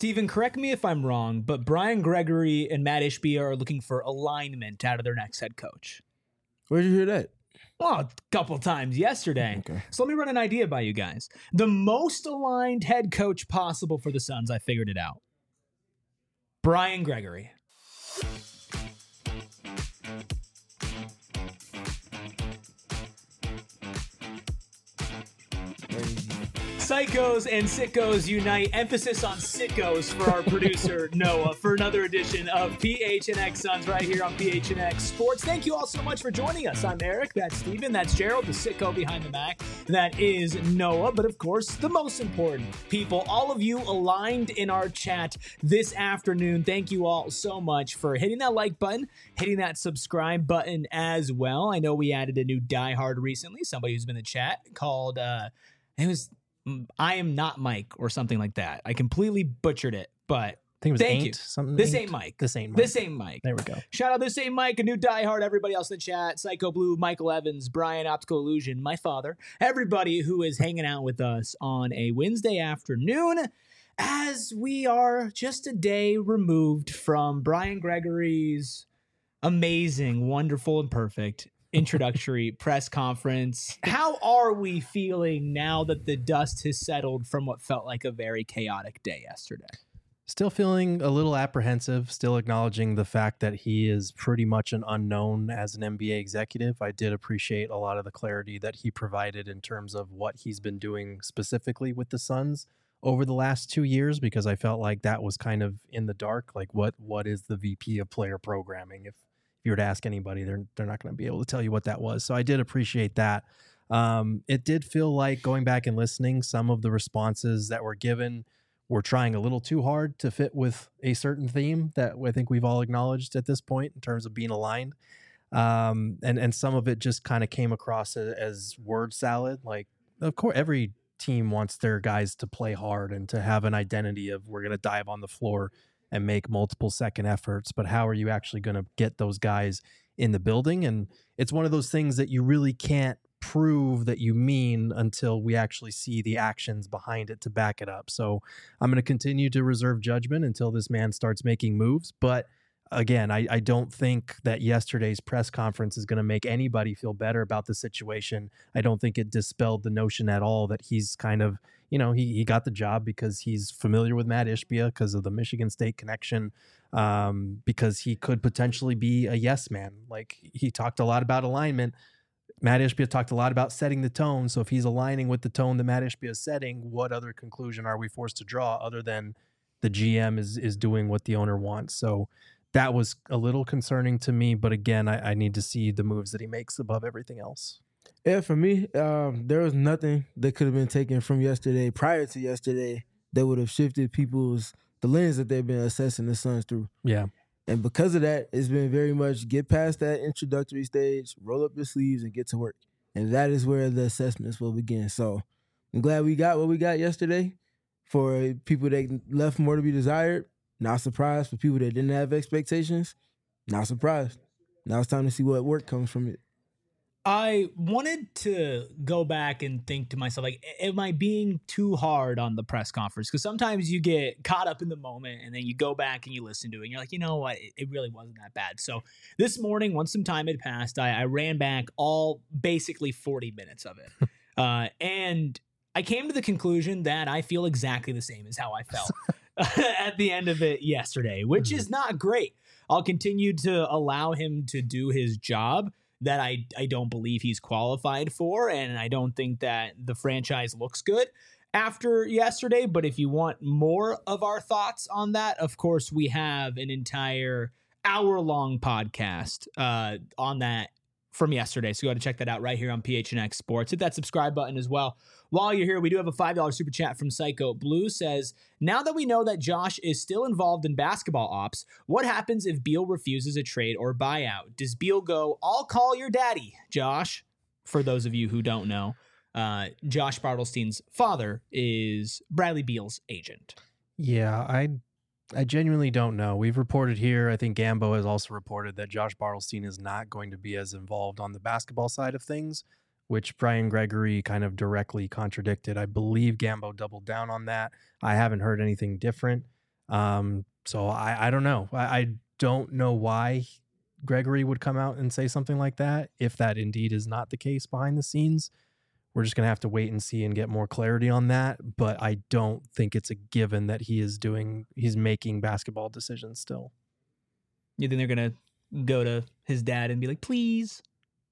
Steven, correct me if I'm wrong, but Brian Gregory and Matt Ishbia are looking for alignment out of their next head coach. Where'd you hear that? Well, a couple times yesterday. Okay. So let me run an idea by you guys. The most aligned head coach possible for the Suns, I figured it out. Brian Gregory. Psychos and sickos unite. Emphasis on sickos for our producer, Noah, for another edition of PHNX Suns right here on PHNX Sports. Thank you all so much for joining us. I'm Eric, that's Steven, that's Gerald, the sicko behind the Mac, that is Noah, but of course, the most important people, all of you aligned in our chat this afternoon. Thank you all so much for hitting that like button, hitting that subscribe button as well. I know we added a new diehard recently, somebody who's been in the chat called, I am not Mike or something like that. I completely butchered it, but I think it was thank Ain't, you. something This Ain't. ain't Mike. This ain't Mike. This ain't Mike. There we go. Shout out This Ain't Mike, a new diehard, everybody else in the chat, Psycho Blue, Michael Evans, Brian Optical Illusion, my father, everybody who is hanging out with us on a Wednesday afternoon as we are just a day removed from Brian Gregory's amazing, wonderful, and perfect introductory press conference. How are we feeling now that the dust has settled from what felt like a very chaotic day yesterday? Still feeling a little apprehensive, still acknowledging the fact that he is pretty much an unknown as an NBA executive. I did appreciate a lot of the clarity that he provided in terms of what he's been doing specifically with the Suns over the last 2 years, because I felt like that was kind of in the dark. Like what is the VP of player programming? If you were to ask anybody, they're not going to be able to tell you what that was. So I did appreciate that. It did feel like, going back and listening, some of the responses that were given were trying a little too hard to fit with a certain theme that I think we've all acknowledged at this point in terms of being aligned. And some of it just kind of came across as word salad. Like, of course, every team wants their guys to play hard and to have an identity of, we're going to dive on the floor and make multiple second efforts, but how are you actually going to get those guys in the building? And it's one of those things that you really can't prove that you mean until we actually see the actions behind it to back it up. So I'm going to continue to reserve judgment until this man starts making moves. But again, I don't think that yesterday's press conference is going to make anybody feel better about the situation. I don't think it dispelled the notion at all that he's kind of, he got the job because he's familiar with Matt Ishbia because of the Michigan State connection, because he could potentially be a yes man. Like, he talked a lot about alignment. Matt Ishbia talked a lot about setting the tone. So if he's aligning with the tone that Matt Ishbia is setting, what other conclusion are we forced to draw other than the GM is doing what the owner wants? So that was a little concerning to me. But again, I need to see the moves that he makes above everything else. Yeah, for me, there was nothing that could have been taken from yesterday, prior to yesterday, that would have shifted the lens that they've been assessing the Suns through. Yeah. And because of that, it's been very much get past that introductory stage, roll up your sleeves, and get to work. And that is where the assessments will begin. So I'm glad we got what we got yesterday. For people that left more to be desired, not surprised. For people that didn't have expectations, not surprised. Now it's time to see what work comes from it. I wanted to go back and think to myself, like, am I being too hard on the press conference? Because sometimes you get caught up in the moment and then you go back and you listen to it and you're like, you know what? It really wasn't that bad. So this morning, once some time had passed, I ran back all basically 40 minutes of it. And I came to the conclusion that I feel exactly the same as how I felt at the end of it yesterday, which is not great. I'll continue to allow him to do his job that I don't believe he's qualified for, and I don't think that the franchise looks good after yesterday. But if you want more of our thoughts on that, of course, we have an entire hour-long podcast on that from yesterday. So go ahead and check that out right here on PHNX Sports. Hit that subscribe button as well. While you're here, we do have a $5 super chat from Psycho Blue. Says, now that we know that Josh is still involved in basketball ops, what happens if Beal refuses a trade or buyout? Does Beal go, I'll call your daddy, Josh? For those of you who don't know, Josh Bartelstein's father is Bradley Beal's agent. Yeah, I genuinely don't know. We've reported here, I think Gambo has also reported that Josh Bartelstein is not going to be as involved on the basketball side of things, which Brian Gregory kind of directly contradicted. I believe Gambo doubled down on that. I haven't heard anything different. So I don't know. I don't know why Gregory would come out and say something like that. If that indeed is not the case behind the scenes, we're just going to have to wait and see and get more clarity on that. But I don't think it's a given that he's making basketball decisions still. You think they're going to go to his dad and be like, please?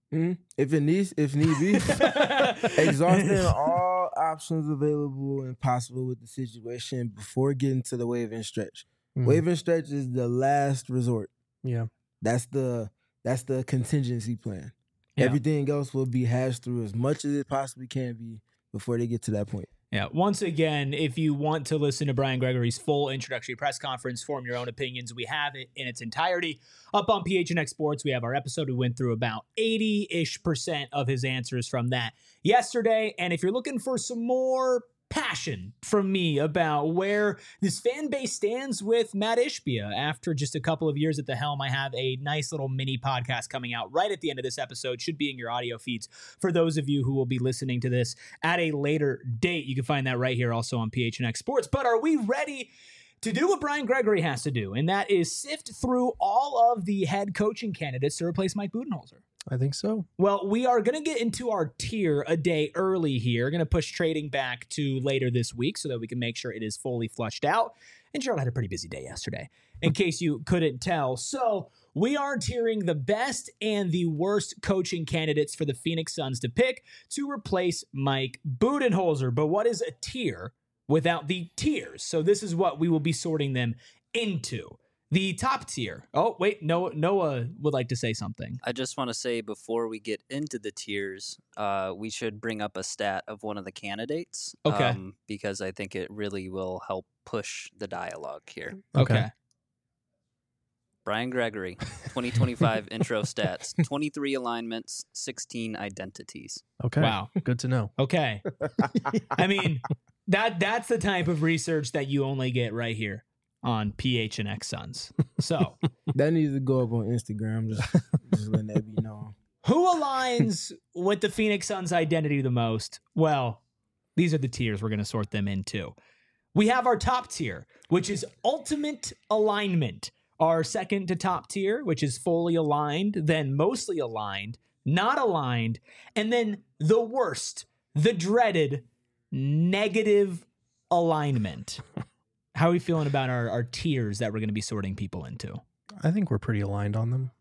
If need be, exhausting all options available and possible with the situation before getting to the waive and stretch. Waive and stretch is the last resort. Yeah. That's the contingency plan. Yeah. Everything else will be hashed through as much as it possibly can be before they get to that point. Yeah. Once again, if you want to listen to Brian Gregory's full introductory press conference, form your own opinions, we have it in its entirety up on PHNX Sports. We have our episode. We went through about 80-ish% of his answers from that yesterday. And if you're looking for some more passion from me about where this fan base stands with Matt Ishbia after just a couple of years at the helm, I have a nice little mini podcast coming out right at the end of this episode. Should be in your audio feeds for those of you who will be listening to this at a later date. You can find that right here also on PHNX Sports. But are we ready to do what Brian Gregory has to do? And that is sift through all of the head coaching candidates to replace Mike Budenholzer. I think so. Well, we are going to get into our tier a day early here. Going to push trading back to later this week so that we can make sure it is fully flushed out. And Charlotte had a pretty busy day yesterday, in case you couldn't tell. So we are tiering the best and the worst coaching candidates for the Phoenix Suns to pick to replace Mike Budenholzer. But what is a tier without the tiers? So this is what we will be sorting them into. The top tier. Oh, wait, Noah would like to say something. I just want to say before we get into the tiers, we should bring up a stat of one of the candidates. Okay. Because I think it really will help push the dialogue here. Okay. Brian Gregory, 2025 intro stats, 23 alignments, 16 identities. Okay. Wow. Good to know. Okay. I mean, that's the type of research that you only get right here on PHNX Suns. So that needs to go up on Instagram. Just letting that be known. Who aligns with the Phoenix Suns identity the most? Well, these are the tiers. We're going to sort them into. We have our top tier, which is ultimate alignment. Our second to top tier, which is fully aligned, then mostly aligned, not aligned, and then the worst, the dreaded negative alignment. How are we feeling about our tiers that we're going to be sorting people into? I think we're pretty aligned on them.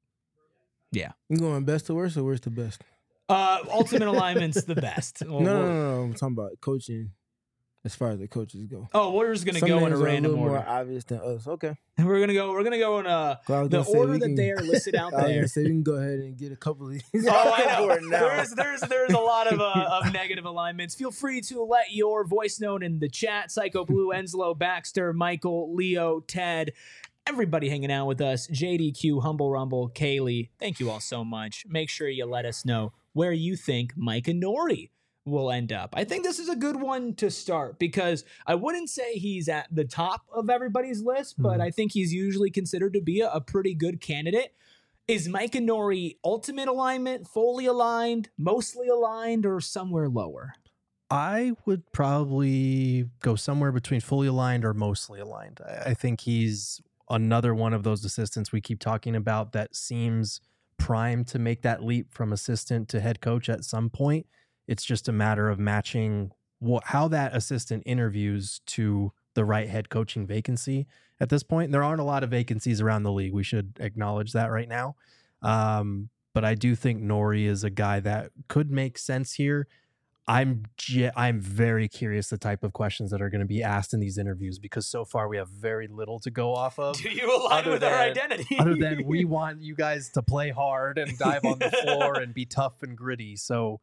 Yeah. You going best to worst or worst to best? Ultimate alignment's the best. No. I'm talking about coaching as far as the coaches go. Oh, we're just going to go in a random order. More obvious than us. Okay. We're gonna go in the order that they are listed out there. So we can go ahead and get a couple of these. Oh, I know. There's a lot of negative alignments. Feel free to let your voice known in the chat. Psycho Blue, Enslow, Baxter, Michael, Leo, Ted, everybody hanging out with us. JDQ, Humble Rumble, Kaylee. Thank you all so much. Make sure you let us know where you think Mike Inori will end up. I think this is a good one to start because I wouldn't say he's at the top of everybody's list, but I think he's usually considered to be a pretty good candidate. Is Mike Inori ultimate alignment, fully aligned, mostly aligned, or somewhere lower? I would probably go somewhere between fully aligned or mostly aligned. I think he's another one of those assistants we keep talking about that seems primed to make that leap from assistant to head coach at some point. It's just a matter of matching how that assistant interviews to the right head coaching vacancy at this point. There aren't a lot of vacancies around the league. We should acknowledge that right now. But I do think Nori is a guy that could make sense here. I'm very curious the type of questions that are going to be asked in these interviews because so far we have very little to go off of. Do you align with our identity? Other than we want you guys to play hard and dive on the floor and be tough and gritty. So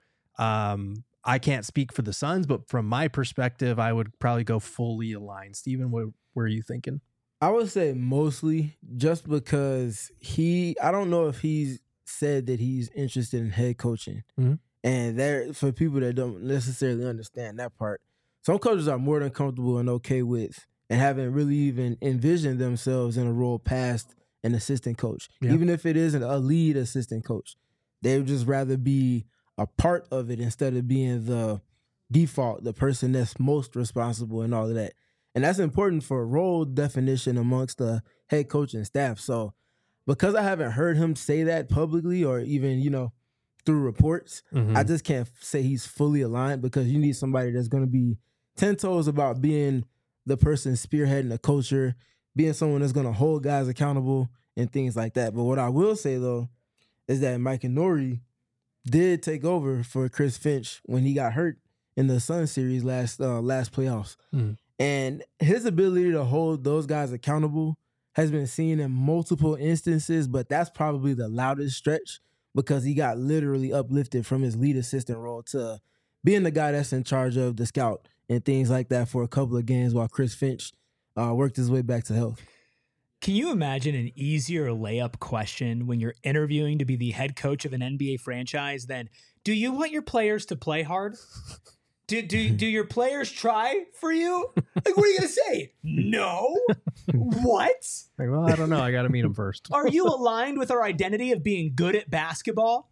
I can't speak for the Suns, but from my perspective, I would probably go fully aligned. Steven, what were you thinking? I would say mostly just because I don't know if he's said that he's interested in head coaching. Mm-hmm. And there, for people that don't necessarily understand that part, some coaches are more than comfortable and okay with and haven't really even envisioned themselves in a role past an assistant coach. Yeah. Even if it isn't a lead assistant coach, they would just rather be a part of it instead of being the default, the person that's most responsible and all of that. And that's important for role definition amongst the head coach and staff. So because I haven't heard him say that publicly or even, through reports, I just can't say he's fully aligned, because you need somebody that's going to be 10 toes about being the person spearheading the culture, being someone that's going to hold guys accountable and things like that. But what I will say, though, is that Mike Nori did take over for Chris Finch when he got hurt in the Sun series last playoffs. And his ability to hold those guys accountable has been seen in multiple instances, but that's probably the loudest stretch, because he got literally uplifted from his lead assistant role to being the guy that's in charge of the scout and things like that for a couple of games while Chris Finch worked his way back to health. Can you imagine an easier layup question when you're interviewing to be the head coach of an NBA franchise than, do you want your players to play hard? Do your players try for you? Like, what are you going to say? No? What? Like, well, I don't know. I got to meet him first. Are you aligned with our identity of being good at basketball?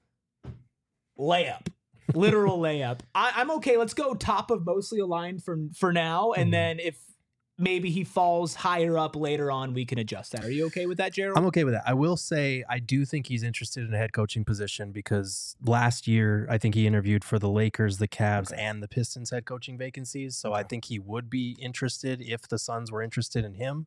Layup. Literal layup. I'm okay. Let's go top of mostly aligned for now. And then if maybe he falls higher up later on, we can adjust that. Are you okay with that, Gerald? I'm okay with that. I will say I do think he's interested in a head coaching position, because last year I think he interviewed for the Lakers, the Cavs, and the Pistons head coaching vacancies. So I think he would be interested if the Suns were interested in him.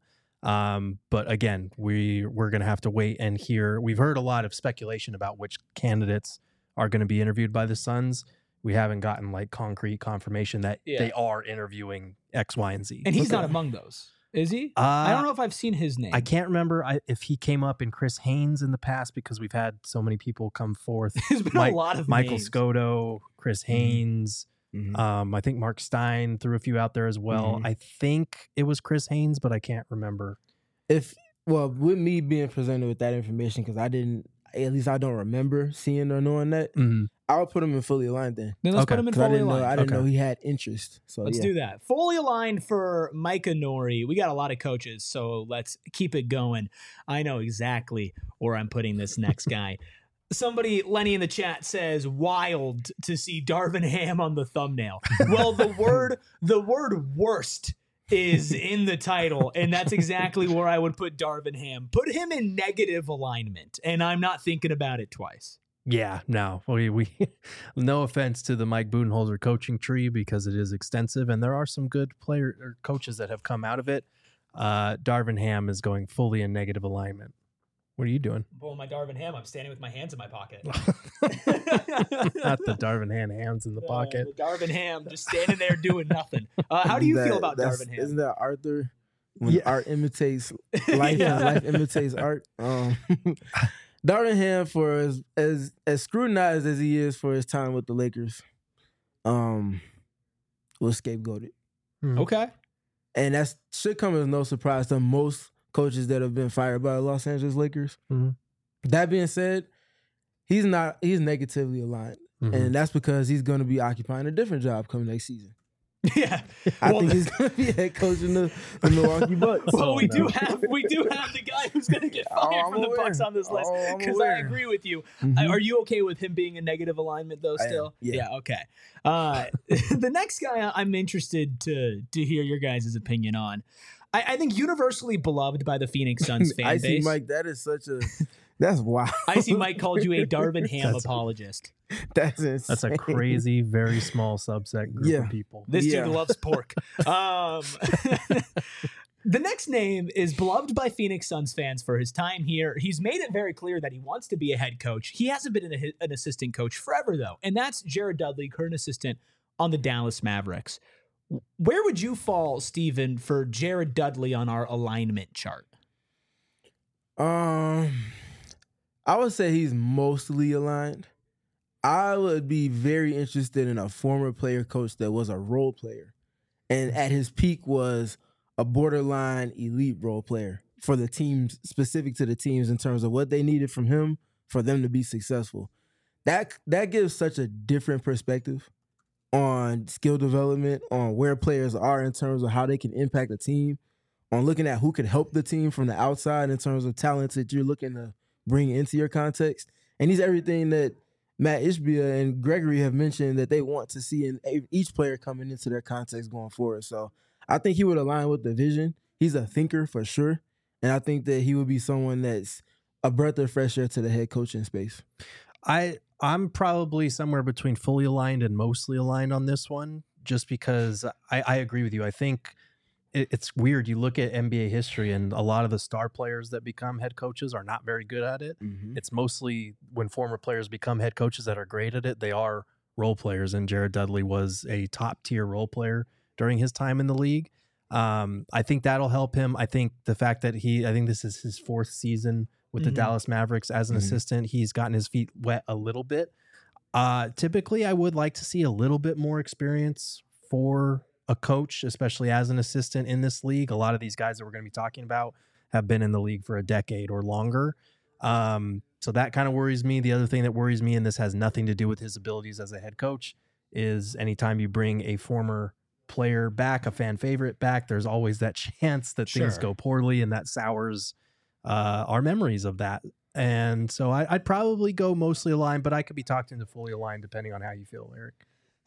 But again, we're going to have to wait and hear. We've heard a lot of speculation about which candidates are going to be interviewed by the Suns. We haven't gotten like concrete confirmation that they are interviewing X, Y, and Z. And he's not among those, is he? I don't know if I've seen his name. I can't remember if he came up in Chris Haynes in the past, because we've had so many people come forth. There's been a lot of Michael names. Scotto, Chris Haynes. I think Mark Stein threw a few out there as well. I think it was Chris Haynes, but I can't remember. With me being presented with that information, because I don't remember seeing or knowing that, I would put him in fully aligned then. Then let's put him in fully aligned. I didn't know he had interest. So let's do that. Fully aligned for Micah Nori. We got a lot of coaches, so let's keep it going. I know exactly where I'm putting this next guy. Somebody, Lenny in the chat, says wild to see Darvin Ham on the thumbnail. Well, the word worst is in the title, and that's exactly where I would put Darvin Ham. Put him in negative alignment, and I'm not thinking about it twice. Yeah, no, we no offense to the Mike Budenholzer coaching tree, because it is extensive and there are some good coaches that have come out of it. Darvin Ham is going fully in negative alignment. What are you doing? I'm pulling my Darvin Ham. I'm standing with my hands in my pocket. Not the Darvin Ham hands in the pocket. The Darvin Ham just standing there doing nothing. How do you feel about Darvin Ham? Isn't that Arthur? When art imitates life and life imitates art. Darvin Ham, for as scrutinized as he is for his time with the Lakers, was scapegoated. Okay. And that should come as no surprise to most coaches that have been fired by the Los Angeles Lakers. That being said, he's negatively aligned. And that's because he's going to be occupying a different job coming next season. Yeah, I think he's going to be head coach in the Milwaukee Bucks. Well, we do have the guy who's going to get fired from the Bucks on this list, because I agree with you. Are you okay with him being in negative alignment though? Still, yeah. Okay. The next guy I'm interested to hear your guys' opinion on. I think universally beloved by the Phoenix Suns fan base. I see, Mike. That is that's wild. I see Mike called you a Darvin Ham apologist. That's insane. That's a crazy, very small subset group of people. This dude loves pork. The next name is beloved by Phoenix Suns fans for his time here. He's made it very clear that he wants to be a head coach. He hasn't been an assistant coach forever, though, and that's Jared Dudley, current assistant on the Dallas Mavericks. Where would you fall, Steven, for Jared Dudley on our alignment chart? I would say he's mostly aligned. I would be very interested in a former player coach that was a role player and at his peak was a borderline elite role player for the teams, specific to the teams in terms of what they needed from him for them to be successful. That gives such a different perspective on skill development, on where players are in terms of how they can impact a team, on looking at who can help the team from the outside in terms of talents that you're looking to bring into your context. And he's everything that Matt Ishbia and Gregory have mentioned that they want to see in each player coming into their context going forward. So I think he would align with the vision. He's a thinker for sure. And I think that he would be someone that's a breath of fresh air to the head coaching space. I'm probably somewhere between fully aligned and mostly aligned on this one, just because I agree with you. I think it's weird. You look at NBA history, and a lot of the star players that become head coaches are not very good at it. Mm-hmm. It's mostly when former players become head coaches that are great at it. They are role players, and Jared Dudley was a top tier role player during his time in the league. I think that'll help him. I think the fact that I think this is his 4th season with the Dallas Mavericks as an assistant. He's gotten his feet wet a little bit. Typically, I would like to see a little bit more experience for a coach, especially as an assistant in this league. A lot of these guys that we're going to be talking about have been in the league for a decade or longer. So that kind of worries me. The other thing that worries me, and this has nothing to do with his abilities as a head coach, is anytime you bring a former player back, a fan favorite back, there's always that chance that things go poorly, and that sours our memories of that. And so I'd probably go mostly aligned, but I could be talked into fully aligned depending on how you feel, Eric.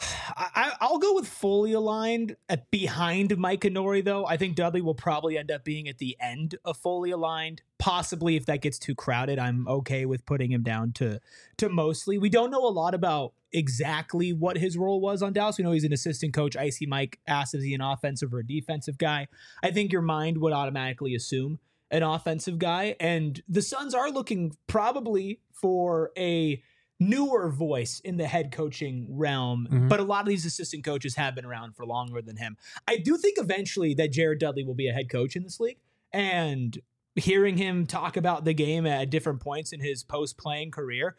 I'll go with fully aligned behind Micah Nori, though. I think Dudley will probably end up being at the end of fully aligned. Possibly, if that gets too crowded, I'm okay with putting him down to mostly. We don't know a lot about exactly what his role was on Dallas. We know he's an assistant coach. Icy Mike asked, is he an offensive or a defensive guy? I think your mind would automatically assume an offensive guy. And the Suns are looking probably for a newer voice in the head coaching realm, but a lot of these assistant coaches have been around for longer than him. I do think eventually that Jared Dudley will be a head coach in this league, and hearing him talk about the game at different points in his post-playing career,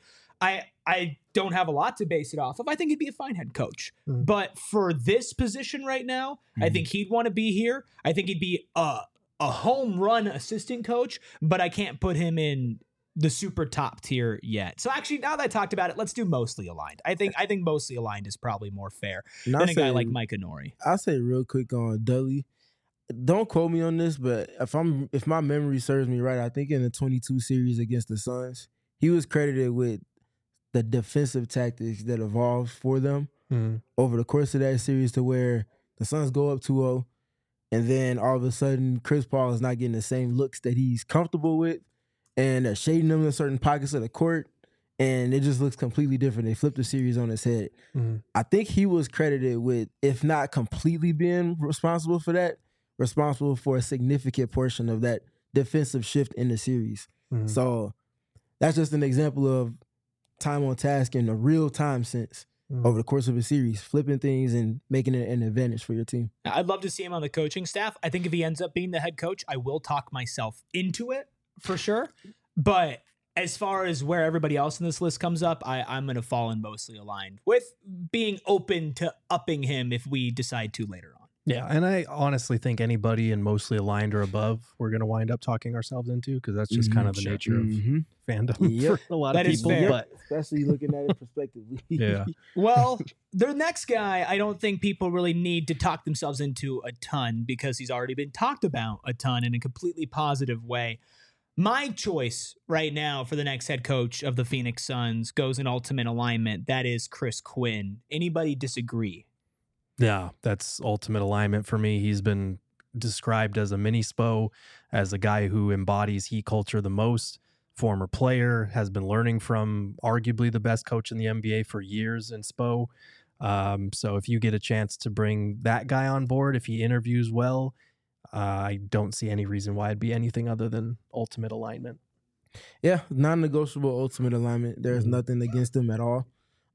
I don't have a lot to base it off of. I think he'd be a fine head coach. But for this position right now, I think he'd want to be here. I think he'd be a home run assistant coach, but I can't put him in the super top tier yet. So actually, now that I talked about it, let's do mostly aligned. I think mostly aligned is probably more fair than a guy like Micah Nori. I'll say real quick on Dudley. Don't quote me on this, but if my memory serves me right, I think in the 22 series against the Suns, he was credited with the defensive tactics that evolved for them over the course of that series, to where the Suns go up 2-0, and then all of a sudden Chris Paul is not getting the same looks that he's comfortable with, and they're shading them in certain pockets of the court, and it just looks completely different. They flipped the series on its head. I think he was credited with, if not completely being responsible for that, responsible for a significant portion of that defensive shift in the series. So that's just an example of time on task in a real time sense over the course of a series, flipping things and making it an advantage for your team. I'd love to see him on the coaching staff. I think if he ends up being the head coach, I will talk myself into it for sure. But as far as where everybody else in this list comes up, I'm going to fall in mostly aligned, with being open to upping him if we decide to later on. Yeah, and I honestly think anybody in mostly aligned or above, we're going to wind up talking ourselves into, because that's just kind of the nature of fandom for a lot of people. But especially looking at it prospectively. Yeah. Well, the next guy, I don't think people really need to talk themselves into a ton, because he's already been talked about a ton in a completely positive way. My choice right now for the next head coach of the Phoenix Suns goes in ultimate alignment. That is Chris Quinn. Anybody disagree? Yeah, that's ultimate alignment for me. He's been described as a mini Spo, as a guy who embodies Heat culture the most. Former player, has been learning from arguably the best coach in the NBA for years in Spo. So if you get a chance to bring that guy on board, if he interviews well, I don't see any reason why it'd be anything other than ultimate alignment. Yeah, non-negotiable ultimate alignment. There's nothing against him at all.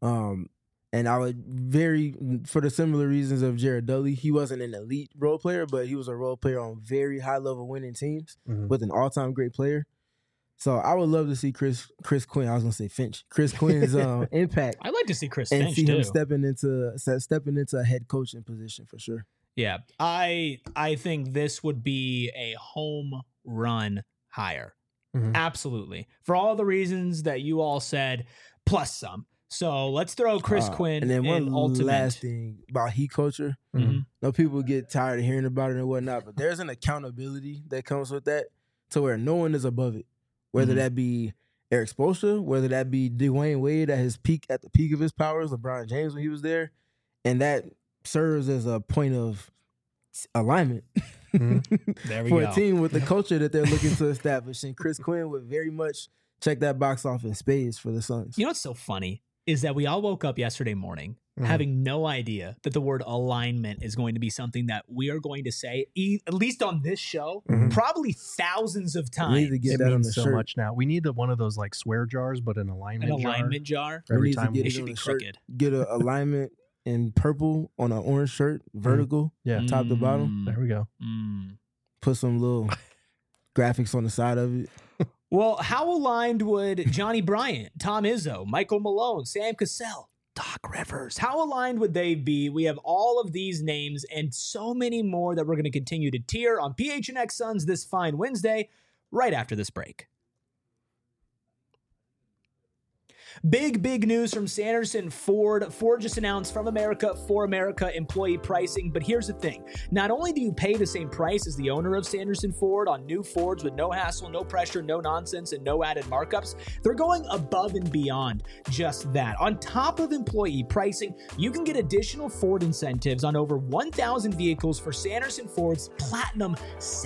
And I would for the similar reasons of Jared Dudley, he wasn't an elite role player, but he was a role player on very high-level winning teams with an all-time great player. So I would love to see Chris Quinn. I was going to say Finch. Chris Quinn's impact. I'd like to see Chris and Finch, see too. him stepping into a head coaching position for sure. Yeah, I think this would be a home run hire. Absolutely. For all the reasons that you all said, plus some. So let's throw Chris Quinn and then one in ultimate. last thing about Heat culture. No, people get tired of hearing about it and whatnot, but there's an accountability that comes with that, to where no one is above it. Whether that be Eric Spoelstra, whether that be Dwayne Wade at the peak of his powers, LeBron James when he was there, and that serves as a point of alignment There we for go. a team with the culture that they're looking to establish. And Chris Quinn would very much check that box off in spades for the Suns. You know what's so funny is that we all woke up yesterday morning Mhm. having no idea that the word alignment is going to be something that we are going to say, at least on this show, Mhm. probably thousands of We need to times. get It that on the means so shirt. much now. We need one of those like swear jars, but an An alignment jar. alignment jar. We Every need to time get It it should on be a shirt. crooked. Get an alignment in purple on an orange shirt, vertical, Yeah. top to bottom. There we go. Put some little graphics on the side of it. Well, how aligned would Johnny Bryant, Tom Izzo, Michael Malone, Sam Cassell, Doc Rivers, how aligned would they be? We have all of these names and so many more that we're going to continue to tier on PHNX Suns this fine Wednesday, right after this break. Big news from Sanderson Ford. Ford just announced From America for America employee pricing. But here's the thing. Not only do you pay the same price as the owner of Sanderson Ford on new Fords with no hassle, no pressure, no nonsense, and no added markups, they're going above and beyond just that. On top of employee pricing, you can get additional Ford incentives on over 1,000 vehicles for Sanderson Ford's Platinum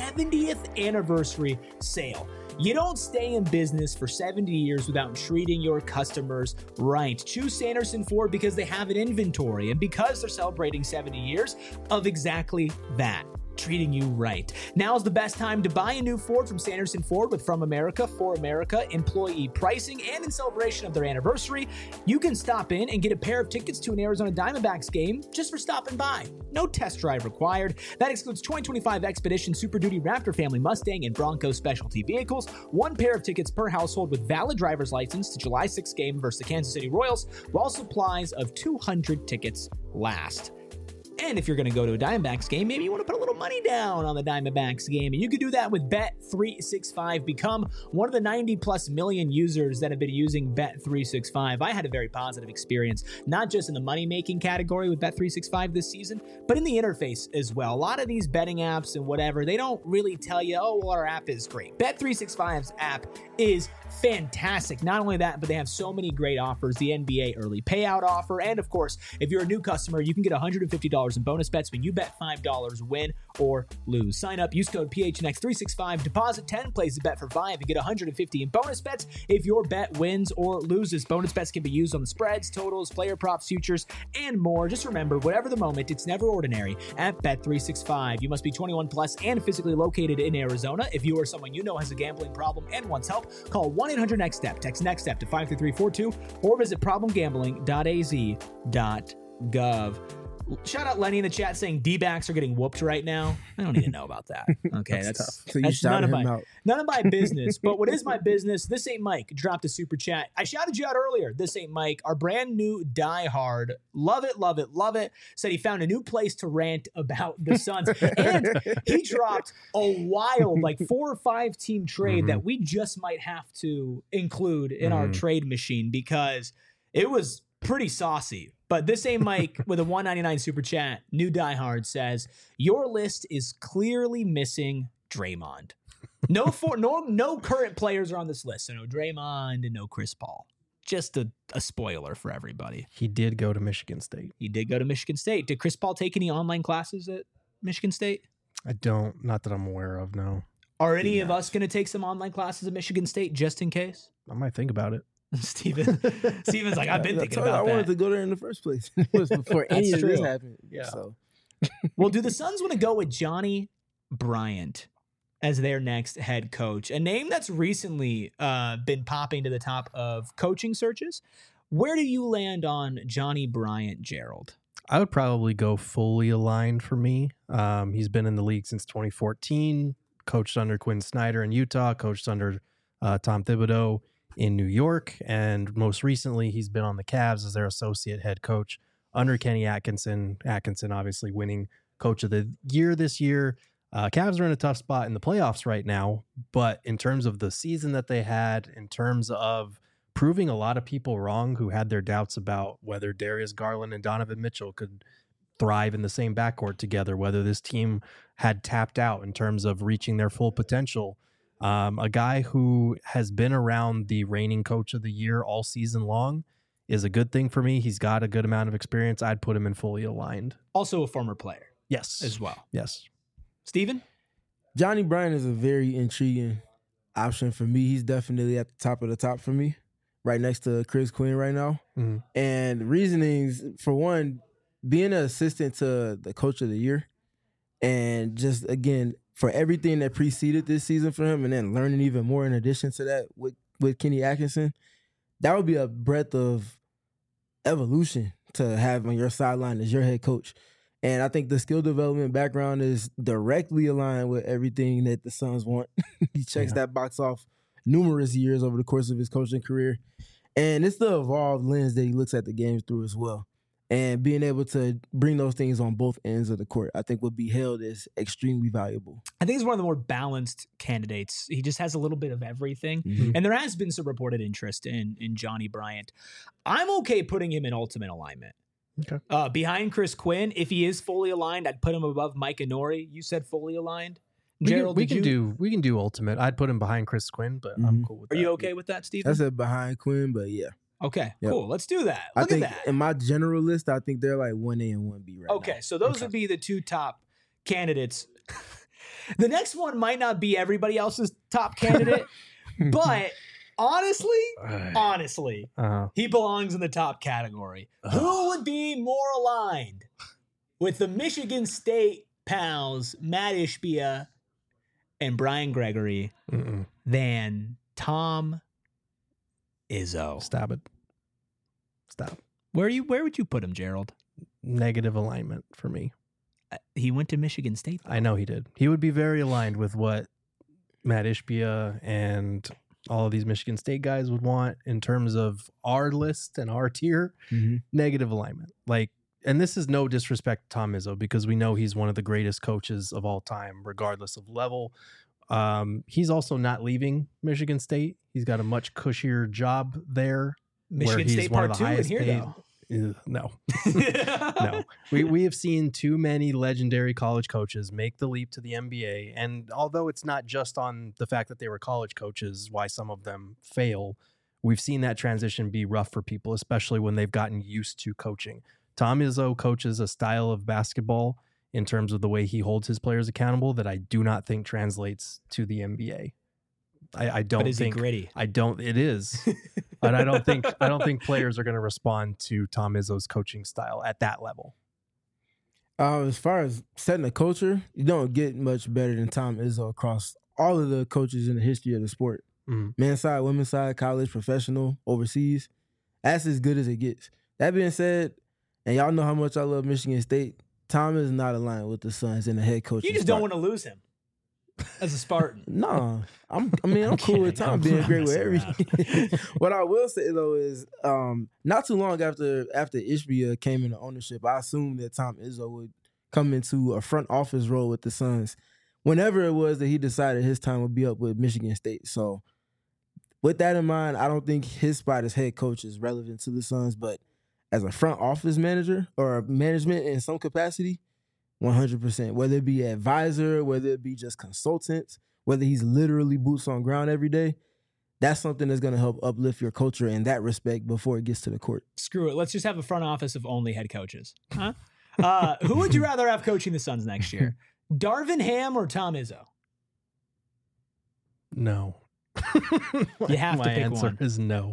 70th anniversary sale. You don't stay in business for 70 years without treating your customers right. Choose Sanderson Ford because they have an inventory and because they're celebrating 70 years of exactly that. Treating you right. Now's the best time to buy a new Ford from Sanderson Ford with From America for America employee pricing, and in celebration of their anniversary, you can stop in and get a pair of tickets to an Arizona Diamondbacks game just for stopping by. No test drive required. That excludes 2025 Expedition Super Duty Raptor Family Mustang and Bronco specialty vehicles, one pair of tickets per household with valid driver's license to July 6th game versus the Kansas City Royals, while supplies of 200 tickets last. And if you're going to go to a Diamondbacks game, maybe you want to put a little money down on the Diamondbacks game. And you can do that with Bet365. Become one of the 90+ million users that have been using Bet365. I had a very positive experience, not just in the money-making category with Bet365 this season, but in the interface as well. A lot of these betting apps and whatever, they don't really tell you, oh, well, our app is great. Bet365's app is fantastic. Not only that, but they have so many great offers. The NBA early payout offer. And of course, if you're a new customer, you can get $150 in bonus bets when you bet $5, win or lose. Sign up, use code PHNX365, deposit 10, place the bet for 5, and get $150 in bonus bets if your bet wins or loses. Bonus bets can be used on the spreads, totals, player props, futures, and more. Just remember, whatever the moment, it's never ordinary at Bet365. You must be 21 plus and physically located in Arizona. If you or someone you know has a gambling problem and wants help, call 1-800-NEXT-STEP. Text NEXT STEP to 53342 or visit problemgambling.az.gov. Shout out Lenny in the chat saying D-backs are getting whooped right now. I don't need to know about that. Okay, that's tough. So you that's shouted him out. none of my business. But what is my business? This Ain't Mike dropped a super chat. I shouted you out earlier. This Ain't Mike, our brand new diehard. Love it, love it, love it. Said he found a new place to rant about the Suns. And he dropped a wild, like 4 or 5 team trade that we just might have to include in our trade machine because it was pretty saucy. But This Ain't Mike with a $1.99 super chat, new diehard, says, your list is clearly missing Draymond. No current players are on this list. So no Draymond and no Chris Paul. Just a spoiler for everybody. He did go to Michigan State. He did go to Michigan State. Did Chris Paul take any online classes at Michigan State? Not that I'm aware of, no. Are any of us going to take some online classes at Michigan State just in case? I might think about it. Steven's like, I've been thinking about I wanted that. to go there in the first place. It was before any of this happened. Yeah. So. Well, do the Suns want to go with Johnny Bryant as their next head coach? A name that's recently been popping to the top of coaching searches. Where do you land on Johnny Bryant, Gerald? I would probably go fully aligned for me. He's been in the league since 2014, coached under Quinn Snyder in Utah, coached under Tom Thibodeau in New York, and most recently he's been on the Cavs as their associate head coach under Kenny Atkinson. Atkinson obviously winning coach of the year this year. Cavs are in a tough spot in the playoffs right now, but in terms of the season that they had, in terms of proving a lot of people wrong who had their doubts about whether Darius Garland and Donovan Mitchell could thrive in the same backcourt together, whether this team had tapped out in terms of reaching their full potential. A guy who has been around the reigning coach of the year all season long is a good thing for me. He's got a good amount of experience. I'd put him in fully aligned. Also a former player. Yes. as well. Yes. Steven? Johnny Bryant is a very intriguing option for me. He's definitely at the top of the top for me, right next to Chris Quinn right now. Mhm. And reasonings, for one, being an assistant to the coach of the year, and just, again, for everything that preceded this season for him, and then learning even more in addition to that with Kenny Atkinson, that would be a breadth of evolution to have on your sideline as your head coach. And I think the skill development background is directly aligned with everything that the Suns want. He checks that box off numerous years over the course of his coaching career. And it's the evolved lens that he looks at the games through as well. And being able to bring those things on both ends of the court, I think would be hailed as extremely valuable. I think he's one of the more balanced candidates. He just has a little bit of everything. Mhm. And there has been some reported interest in Johnny Bryant. I'm okay putting him in ultimate alignment. Okay. Behind Chris Quinn, if he is fully aligned, I'd put him above Mike Inori. You said fully aligned. Gerald, we can do ultimate. I'd put him behind Chris Quinn, but I'm cool with Are that. you okay with that, Steven? I said behind Quinn, but yeah. Okay, Yep. cool. Let's do that. I Look think at that. in my general list, I think they're like 1A and 1B right now. Okay, so those would be the two top candidates. The next one might not be everybody else's top candidate, but honestly, he belongs in the top category. Who would be more aligned with the Michigan State pals, Matt Ishbia and Brian Gregory, than Tom Izzo? Stop it. Stop. Where would you put him, Gerald? Negative alignment for me. He went to Michigan State, though. I know he did. He would be very aligned with what Matt Ishbia and all of these Michigan State guys would want in terms of our list and our tier. Negative alignment. And this is no disrespect to Tom Izzo, because we know he's one of the greatest coaches of all time, regardless of level. He's also not leaving Michigan State. He's got a much cushier job there. Michigan State Part 2 in here, though. No. No. We have seen too many legendary college coaches make the leap to the NBA. And although it's not just on the fact that they were college coaches, why some of them fail, we've seen that transition be rough for people, especially when they've gotten used to coaching. Tom Izzo coaches a style of basketball in terms of the way he holds his players accountable that I do not think translates to the NBA. I don't But is think he gritty? it is. But I don't think players are going to respond to Tom Izzo's coaching style at that level. As far as setting a culture, you don't get much better than Tom Izzo across all of the coaches in the history of the sport. Men's side, women's side, college, professional, overseas. That's as good as it gets. That being said, and y'all know how much I love Michigan State, Tom is not aligned with the Suns and the head coach. You just don't want to lose him as a Spartan. No, I'm cool with Tom being great with everything. What I will say though is, not too long after Ishbia came into ownership, I assumed that Tom Izzo would come into a front office role with the Suns whenever it was that he decided his time would be up with Michigan State. So with that in mind, I don't think his spot as head coach is relevant to the Suns, but as a front office manager or management in some capacity, 100%. Whether it be advisor, whether it be just consultants, whether he's literally boots on ground every day, that's something that's going to help uplift your culture in that respect before it gets to the court. Screw it. Let's just have a front office of only head coaches. Huh? Who would you rather have coaching the Suns next year? Darvin Ham or Tom Izzo? No. You have to My pick answer one. is no.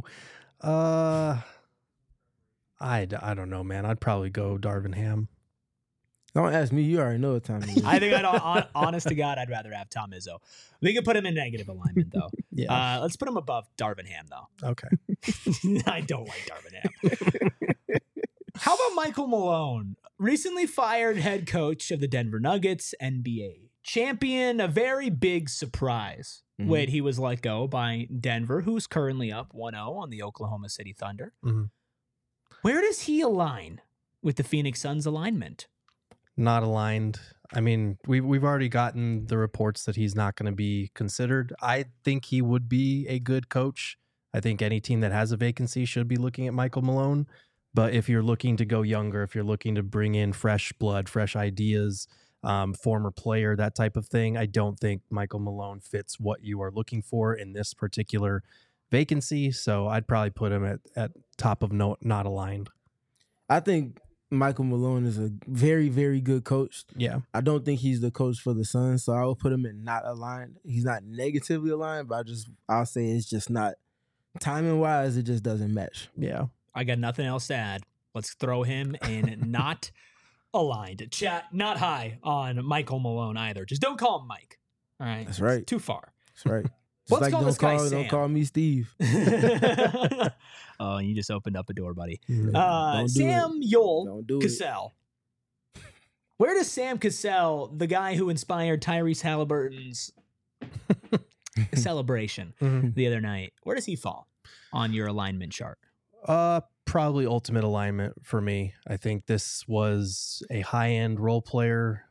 I don't know, man. I'd probably go Darvin Ham. Don't ask me. You already know what time it is. I think honest to God, I'd rather have Tom Izzo. We could put him in negative alignment, though. Yeah. Let's put him above Darvin Ham, though. Okay. I don't like Darvin Ham. How about Michael Malone? Recently fired head coach of the Denver Nuggets, NBA champion. A very big surprise when he was let go by Denver, who's currently up 1-0 on the Oklahoma City Thunder. Where does he align with the Phoenix Suns alignment? Not aligned. I mean, we've already gotten the reports that he's not going to be considered. I think he would be a good coach. I think any team that has a vacancy should be looking at Michael Malone. But if you're looking to go younger, if you're looking to bring in fresh blood, fresh ideas, former player, that type of thing, I don't think Michael Malone fits what you are looking for in this particular vacancy. So I'd probably put him at top of not aligned. I think Michael Malone is a very, very good coach. Yeah. I don't think he's the coach for the Suns, so I will put him in not aligned. He's not negatively aligned, but I'll say it's just not timing wise. It just doesn't match. Yeah. I got nothing else to add. Let's throw him in not aligned. Chat, not high on Michael Malone either. Just don't call him Mike. All right. That's right. It's too far. That's right. Just Let's like call this guy Sam. don't call me Steve. Oh, you just opened up a door, buddy. Don't do Sam it. Yol Don't do it. Cassell. Where does Sam Cassell, the guy who inspired Tyrese Halliburton's celebration the other night, where does he fall on your alignment chart? Probably ultimate alignment for me. I think this was a high-end role player.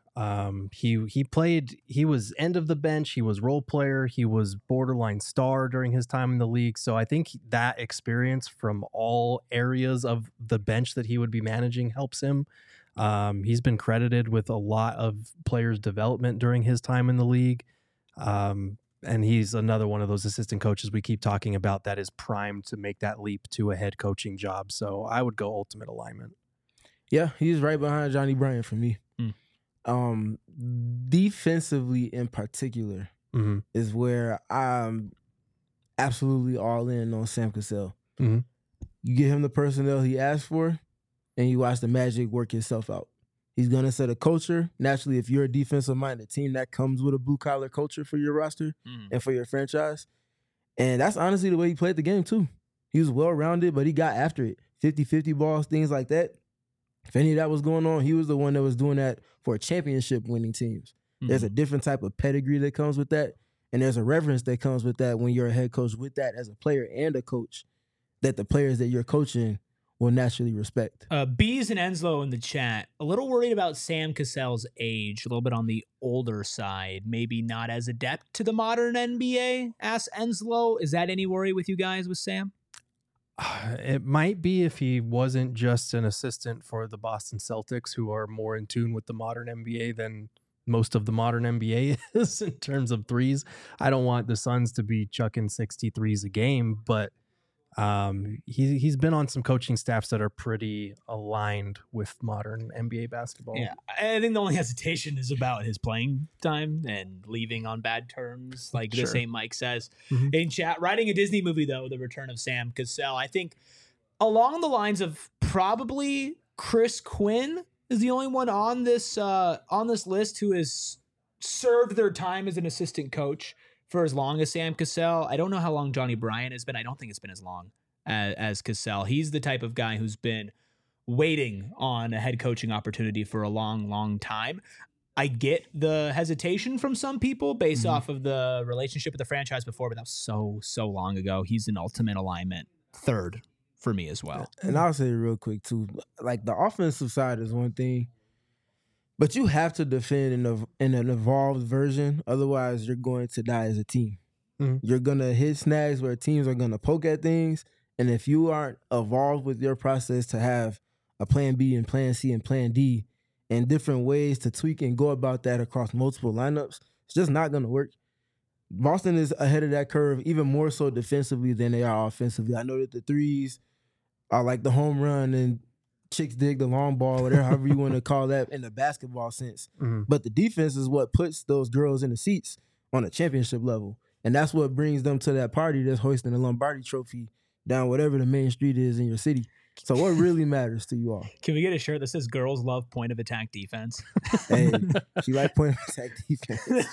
He was end of the bench. He was role player. He was borderline star during his time in the league. So I think that experience from all areas of the bench that he would be managing helps him. He's been credited with a lot of players' development during his time in the league. And he's another one of those assistant coaches we keep talking about that is primed to make that leap to a head coaching job. So I would go ultimate alignment. Yeah, he's right behind Johnny Bryant for me. Defensively in particular is where I'm absolutely all in on Sam Cassell. You get him the personnel he asked for, and you watch the magic work itself out. He's going to set a culture. Naturally, if you're a defensive-minded team, that comes with a blue-collar culture for your roster and for your franchise. And that's honestly the way he played the game, too. He was well-rounded, but he got after it. 50-50 balls, things like that. If any of that was going on, he was the one that was doing that for championship-winning teams. There's a different type of pedigree that comes with that, and there's a reverence that comes with that when you're a head coach with that as a player and a coach, that the players that you're coaching will naturally respect. Bees and Enslow in the chat, a little worried about Sam Cassell's age, a little bit on the older side, maybe not as adept to the modern NBA, asks Enslow. Is that any worry with you guys with Sam? It might be if he wasn't just an assistant for the Boston Celtics, who are more in tune with the modern NBA than most of the modern NBA is in terms of threes. I don't want the Suns to be chucking 60 threes a game, but he's been on some coaching staffs that are pretty aligned with modern NBA basketball. Yeah, I think the only hesitation is about his playing time and leaving on bad terms, like the St. Mike says in chat. Writing a Disney movie, though, the return of Sam Cassell, I think along the lines of probably Chris Quinn is the only one on this list who has served their time as an assistant coach for as long as Sam Cassell. I don't know how long Johnny Bryant has been. I don't think it's been as long as Cassell. He's the type of guy who's been waiting on a head coaching opportunity for a long, long time. I get the hesitation from some people based off of the relationship with the franchise before, but that was so long ago. He's an ultimate alignment third for me as well. And I'll say real quick, too, like the offensive side is one thing, but you have to defend in an evolved version. Otherwise, you're going to die as a team. You're going to hit snags where teams are going to poke at things. And if you aren't evolved with your process to have a plan B and plan C and plan D and different ways to tweak and go about that across multiple lineups, it's just not going to work. Boston is ahead of that curve, even more so defensively than they are offensively. I know that the threes are like the home run and chicks dig the long ball, whatever, however you want to call that in the basketball sense. But the defense is what puts those girls in the seats on a championship level. And that's what brings them to that party that's hoisting the Lombardi trophy down whatever the main street is in your city. So what really matters to you all? Can we get a shirt that says girls love point of attack defense? Hey, she like point of attack defense.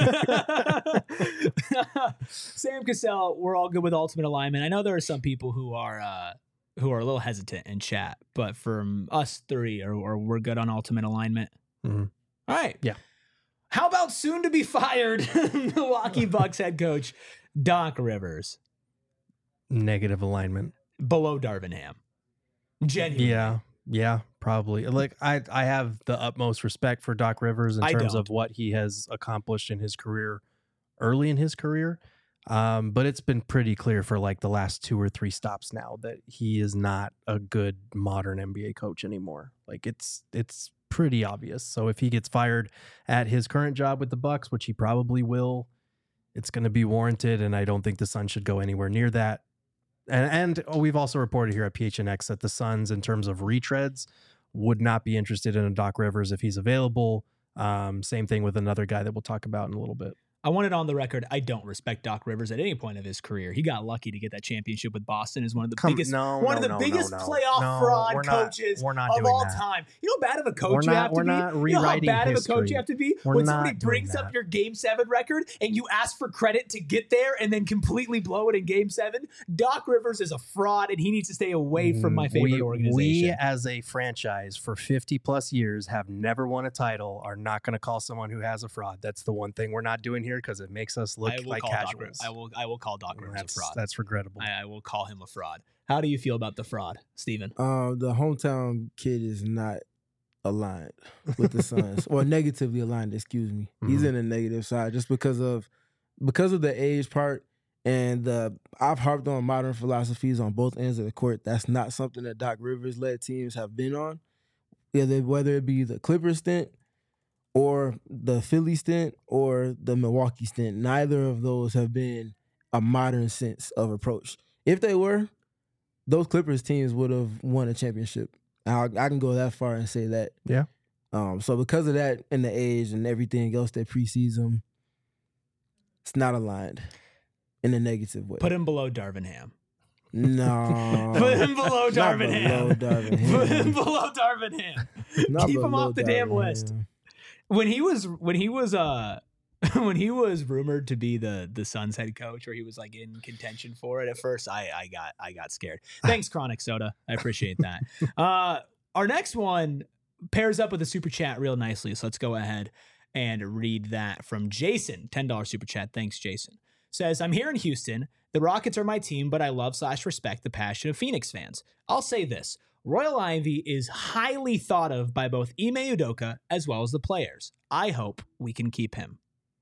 Sam Cassell, we're all good with ultimate alignment. I know there are some people who are a little hesitant in chat, but from us three, or we're good on ultimate alignment. All right. Yeah. How about soon to be fired Milwaukee Bucks head coach Doc Rivers? Negative alignment. Below Darvin Ham. Genuinely. Yeah, probably. Like I have the utmost respect for Doc Rivers in terms of what he has accomplished in his career, early in his career. But it's been pretty clear for like the last 2 or 3 stops now that he is not a good modern NBA coach anymore. Like it's pretty obvious. So if he gets fired at his current job with the Bucks, which he probably will, it's going to be warranted. And I don't think the Suns should go anywhere near that. And we've also reported here at PHNX that the Suns, in terms of retreads, would not be interested in a Doc Rivers if he's available. Same thing with another guy that we'll talk about in a little bit. I want it on the record. I don't respect Doc Rivers at any point of his career. He got lucky to get that championship with Boston as one of the biggest playoff fraud coaches of all time. You know how bad of a coach you have to be? You know how bad of a coach you have to be when somebody brings up your Game 7 record and you ask for credit to get there and then completely blow it in Game 7? Doc Rivers is a fraud and he needs to stay away from my favorite organization. We as a franchise for 50 plus years have never won a title, are not going to call someone who has a fraud. That's the one thing we're not doing here, because it makes us look like casuals. I will call Doc Rivers a fraud. That's regrettable. I will call him a fraud. How do you feel about the fraud, Steven? The hometown kid is not aligned with the Suns, or negatively aligned. Excuse me. Mm-hmm. He's in the negative side just because of the age part, and I've harped on modern philosophies on both ends of the court. That's not something that Doc Rivers led teams have been on. Whether it be the Clippers stint, or the Philly stint, or the Milwaukee stint. Neither of those have been a modern sense of approach. If they were, those Clippers teams would have won a championship. I can go that far and say that. Yeah. So because of that and the age and everything else that precedes them, it's not aligned in a negative way. Put him below Darvin Ham. No. Put him below Darvin Ham. Put him below Darvin Ham. Keep him off the damn list. When he was rumored to be the Suns head coach, or he was like in contention for it at first, I got scared. Thanks, Chronic Soda. I appreciate that. Our next one pairs up with a super chat real nicely. So let's go ahead and read that from Jason. $10 super chat. Thanks, Jason. Says, I'm here in Houston. The Rockets are my team, but I love/respect the passion of Phoenix fans. I'll say this. Royal Ivey is highly thought of by both Ime Udoka as well as the players. I hope we can keep him.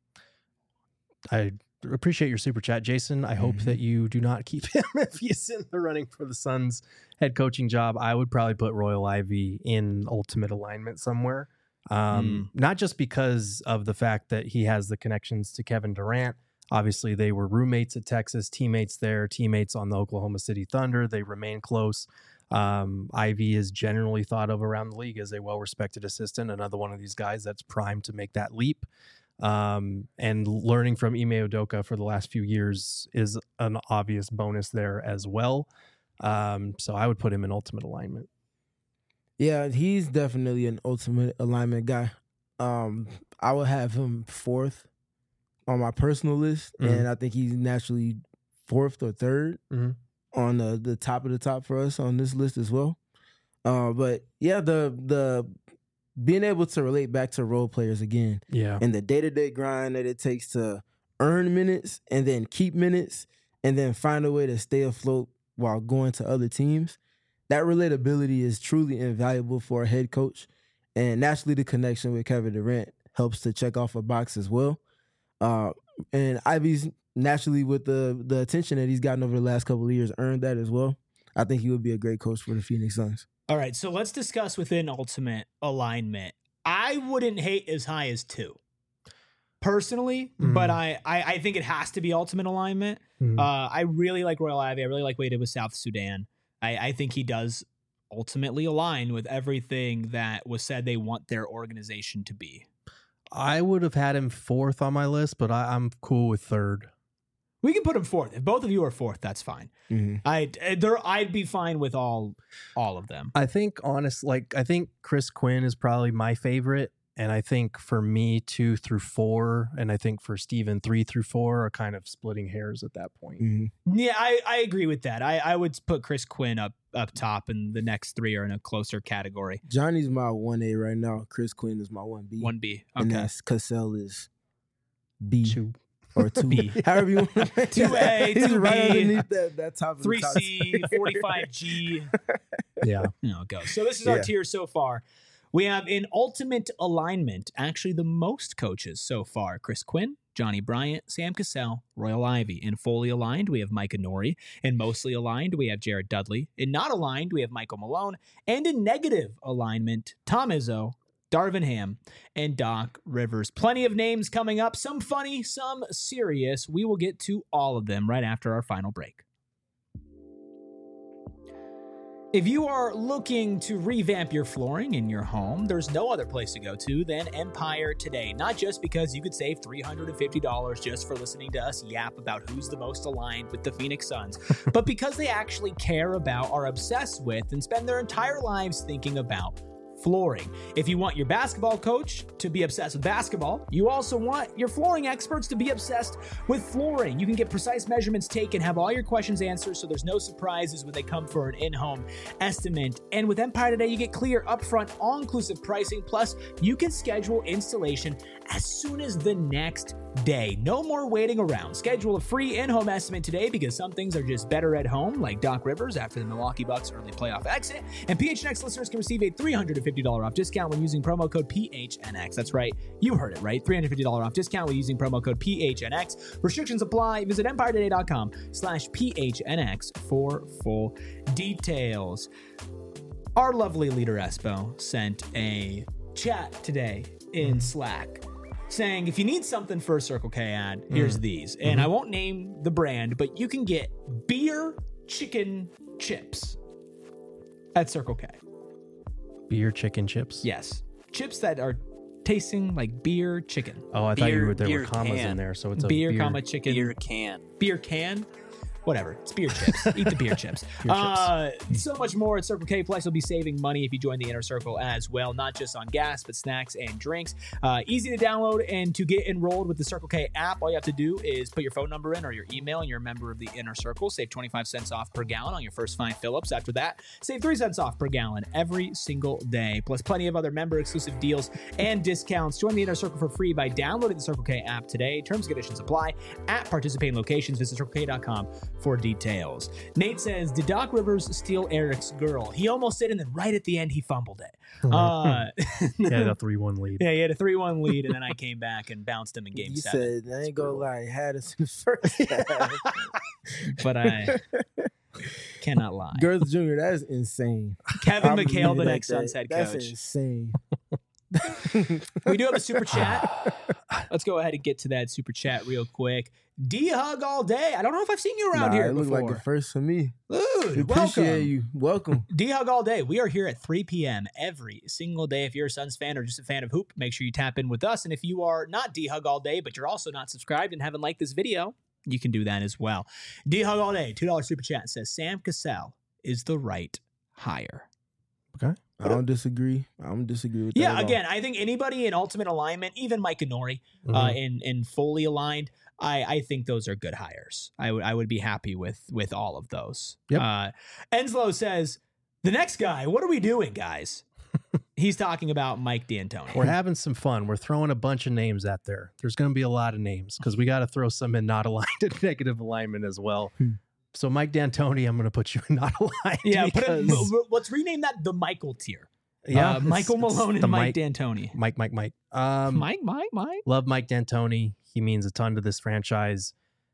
I appreciate your super chat, Jason. I hope that you do not keep him if he's in the running for the Suns head coaching job. I would probably put Royal Ivey in ultimate alignment somewhere. Not just because of the fact that he has the connections to Kevin Durant. Obviously, they were roommates at Texas, teammates there, teammates on the Oklahoma City Thunder. They remain close. Ivy is generally thought of around the league as a well-respected assistant, another one of these guys that's primed to make that leap. And learning from Ime Udoka for the last few years is an obvious bonus there as well. So I would put him in ultimate alignment. Yeah, he's definitely an ultimate alignment guy. I would have him fourth on my personal list, and I think he's naturally fourth or third on the top of the top for us on this list as well. But yeah, the being able to relate back to role players again, and the day-to-day grind that it takes to earn minutes and then keep minutes and then find a way to stay afloat while going to other teams, that relatability is truly invaluable for a head coach. And naturally, the connection with Kevin Durant helps to check off a box as well. And Ivy's naturally, with the attention that he's gotten over the last couple of years, earned that as well. I think he would be a great coach for the Phoenix Suns. All right, so let's discuss within ultimate alignment. I wouldn't hate as high as 2, personally, but I think it has to be ultimate alignment. I really like Royal Ivey. I really like what he did with South Sudan. I think he does ultimately align with everything that was said they want their organization to be. I would have had him fourth on my list, but I'm cool with third. We can put him fourth. If both of you are fourth, that's fine. I'd be fine with all of them. I think I think Chris Quinn is probably my favorite. And I think for me, 2 through 4, and I think for Steven, 3 through 4 are kind of splitting hairs at that point. Yeah, I agree with that. I would put Chris Quinn up top, and the next 3 are in a closer category. Johnny's my 1A right now. Chris Quinn is my 1B. 1B, okay. And that's Cassell is B. 2. Or 2B. However you want to make 2A, 2B. He's right underneath that top of 3C, 45G. Yeah. It goes. So this is our tier so far. We have in ultimate alignment, actually the most coaches so far. Chris Quinn, Johnny Bryant, Sam Cassell, Royal Ivey. In fully aligned, we have Micah Nori. In mostly aligned, we have Jared Dudley. In not aligned, we have Michael Malone. And in negative alignment, Tom Izzo, Darvin Ham, and Doc Rivers. Plenty of names coming up, some funny, some serious. We will get to all of them right after our final break. If you are looking to revamp your flooring in your home, there's no other place to go to than Empire Today. Not just because you could save $350 just for listening to us yap about who's the most aligned with the Phoenix Suns, but because they actually care about, are obsessed with, and spend their entire lives thinking about flooring. If you want your basketball coach to be obsessed with basketball, you also want your flooring experts to be obsessed with flooring. You can get precise measurements taken, have all your questions answered, so there's no surprises when they come for an in-home estimate. And with Empire Today, you get clear, upfront, all-inclusive pricing, plus you can schedule installation as soon as the next day. No more waiting around. Schedule a free in-home estimate today because some things are just better at home, like Doc Rivers after the Milwaukee Bucks early playoff exit. And PHNX listeners can receive a $350 off discount when using promo code PHNX. That's right. You heard it right. $350 off discount when using promo code PHNX. Restrictions apply. Visit EmpireToday.com/PHNX for full details. Our lovely leader Espo sent a chat today in Slack saying, if you need something for a Circle K ad, here's these. And I won't name the brand, but you can get beer chicken chips at Circle K. Beer chicken chips? Yes. Chips that are tasting like beer chicken. Oh, I thought there Beer were commas can. in there, so it's a Beer, comma, chicken. Beer can. Beer can. Whatever. It's beer chips. Eat the beer chips. So much more at Circle K. Plus, you'll be saving money if you join the Inner Circle as well, not just on gas, but snacks and drinks. Easy to download and to get enrolled with the Circle K app. All you have to do is put your phone number in or your email, and you're a member of the Inner Circle. Save 25 cents off per gallon on your first 5 fill-ups. After that, save 3 cents off per gallon every single day, plus plenty of other member-exclusive deals and discounts. Join the Inner Circle for free by downloading the Circle K app today. Terms and conditions apply at participating locations. Visit CircleK.com for details. Nate says, did Doc Rivers steal Eric's girl? He almost did, and then right at the end, he fumbled it. He had a 3-1 lead. Yeah, he had a 3-1 lead, and then I came back and bounced him in game 7. You said, I ain't gonna lie, he had us in the first half. But I cannot lie. Girls Jr., that's insane. Kevin I'm McHale, really the like next that. Suns head That's coach. insane. We do have a super chat. Let's go ahead and get to that super chat real quick. D-Hug all day. I don't know if I've seen you around here it before. looked like the first for me. Dude, Appreciate welcome. you. Welcome. D-Hug all day. We are here at 3 p.m. every single day. If you're a Suns fan or just a fan of hoop, make sure you tap in with us. And if you are not D-Hug all day, but you're also not subscribed and haven't liked this video, you can do that as well. D-Hug all day. $2 super chat says Sam Cassell is the right hire. Okay. I don't disagree. I don't disagree with that. Yeah, at all. again, I think anybody in ultimate alignment, even Mike and Nori, in fully aligned, I think those are good hires. I would be happy with all of those. Yep. Enslow says, the next guy, what are we doing, guys? He's talking about Mike D'Antoni. We're having some fun. We're throwing a bunch of names out there. There's going to be a lot of names because we got to throw some in not aligned and negative alignment as well. So Mike D'Antoni, I'm going to put you in not aligned. Yeah, because, let's rename that the Michael tier. yeah, Michael Malone the and Mike D'Antoni. Mike. Mike. Love Mike D'Antoni. He means a ton to this franchise.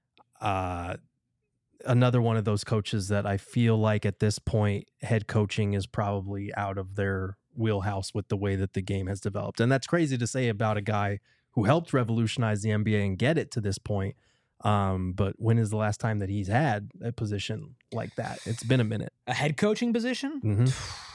Another one of those coaches that I feel like at this point, head coaching is probably out of their wheelhouse with the way that the game has developed. And that's crazy to say about a guy who helped revolutionize the NBA and get it to this point. But when is the last time that he's had a position like that? It's been a minute. A head coaching position? Mm-hmm.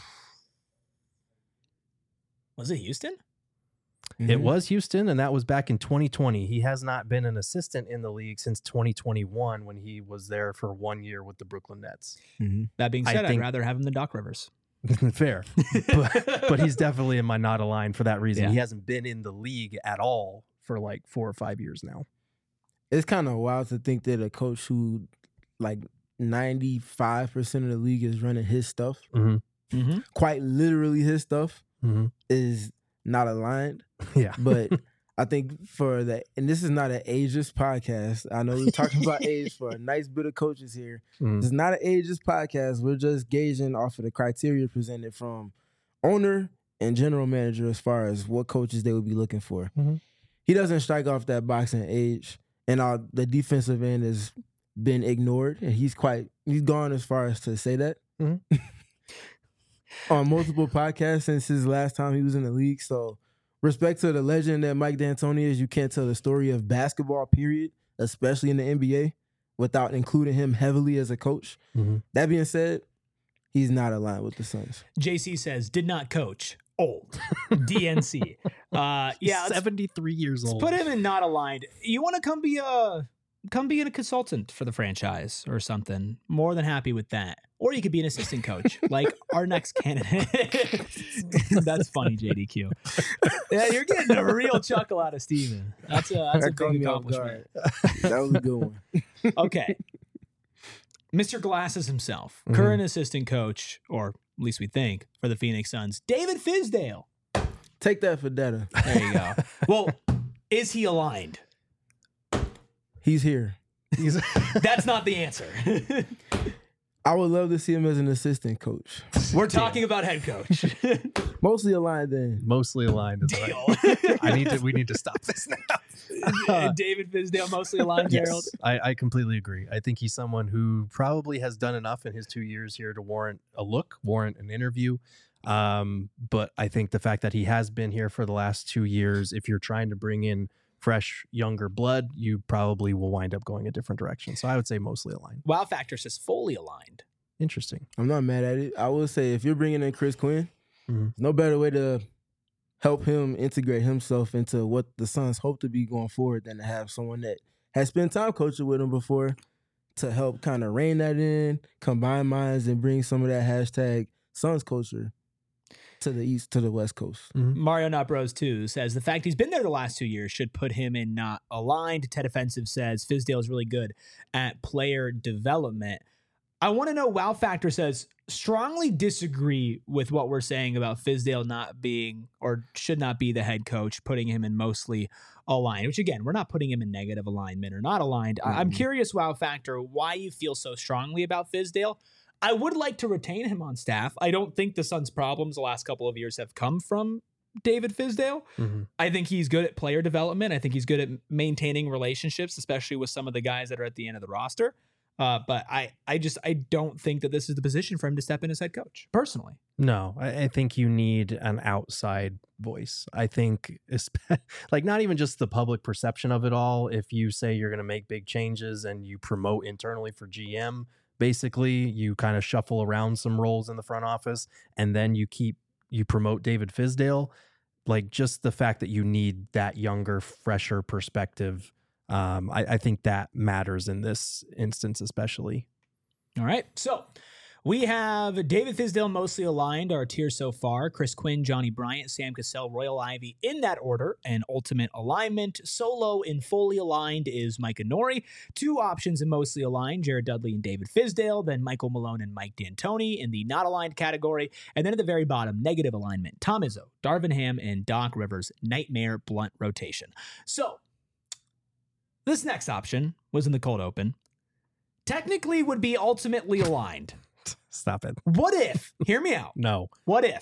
Was it Houston? It was Houston, and that was back in 2020. He has not been an assistant in the league since 2021 when he was there for 1 year with the Brooklyn Nets. That being I said, I'd think- rather have him than Doc Rivers. Fair. but he's definitely in my not aligned for that reason. Yeah. He hasn't been in the league at all for like 4 or 5 years now. It's kind of wild to think that a coach who like 95% of the league is running his stuff, Mm-hmm. quite literally his stuff, Mm-hmm. is not aligned. Yeah. But I think for the, and this is not an ageist podcast. I know we're talking about age for a nice bit of coaches here. Mhm. It's not an ageist podcast. We're just gauging off of the criteria presented from owner and general manager as far as what coaches they would be looking for. Mhm. He doesn't strike off that boxing age, and the defensive end has been ignored, and he's gone as far as to say that. Mhm. On multiple podcasts since his last time he was in the league. So respect to the legend that Mike D'Antoni is. You can't tell the story of basketball, period, especially in the NBA, without including him heavily as a coach. Mhm. That being said, he's not aligned with the Suns. JC says, did not coach. Old. DNC. Yeah, let's 73 years old. put him in not aligned. You want to come be a consultant for the franchise or something. More than happy with that. Or you could be an assistant coach, like our next candidate. That's funny, JDQ. Yeah, you're getting a real chuckle out of Steven. That's a big accomplishment. That was a good one. Okay. Mr. Glasses himself, current assistant coach, or at least we think, for the Phoenix Suns, David Fizdale. Take that for data. There you go. Well, is he aligned? He's here. That's not the answer. I would love to see him as an assistant coach. We're talking about head coach. Mostly aligned then. Mostly aligned. Is Deal. we need to stop this now. David Fizdale, mostly aligned, Gerald. Yes, I completely agree. I think he's someone who probably has done enough in his 2 years here to warrant a look, warrant an interview. But I think the fact that he has been here for the last 2 years, if you're trying to bring in fresh, younger blood, you probably will wind up going a different direction. So I would say mostly aligned. Wow Factor says fully aligned. Interesting. I'm not mad at it. I will say if you're bringing in Chris Quinn, Mhm. no better way to help him integrate himself into what the Suns hope to be going forward than to have someone that has spent time coaching with him before to help kind of rein that in, combine minds, and bring some of that hashtag Suns culture to the East, to the West Coast. Mario Not Bros 2 says the fact he's been there the last 2 years should put him in not aligned. Ted Offensive says Fizdale is really good at player development. I want to know, Wow Factor says, strongly disagree with what we're saying about Fizdale not being or should not be the head coach, putting him in mostly aligned, which again, we're not putting him in negative alignment or not aligned. I'm curious, Wow Factor, why you feel so strongly about Fizdale. I would like to retain him on staff. I don't think the Suns' problems the last couple of years have come from David Fizdale. I think he's good at player development. I think he's good at maintaining relationships, especially with some of the guys that are at the end of the roster. But I don't think that this is the position for him to step in as head coach, personally. No, I think you need an outside voice. I think, like, not even just the public perception of it all. If you say you're going to make big changes and you promote internally for GM, basically you kind of shuffle around some roles in the front office and then you promote David Fizdale. Like, just the fact that you need that younger, fresher perspective, I think that matters in this instance especially. All right, so we have David Fizdale mostly aligned, our tier so far. Chris Quinn, Johnny Bryant, Sam Cassell, Royal Ivy in that order, and ultimate alignment. Solo in fully aligned is Micah Nori. Two options in mostly aligned, Jared Dudley and David Fizdale, then Michael Malone and Mike D'Antoni in the not aligned category. And then at the very bottom, negative alignment, Tom Izzo, Darvin Ham, and Doc Rivers, nightmare blunt rotation. So this next option was in the cold open. Technically would be ultimately aligned. Stop it. What if, hear me out. No. What if,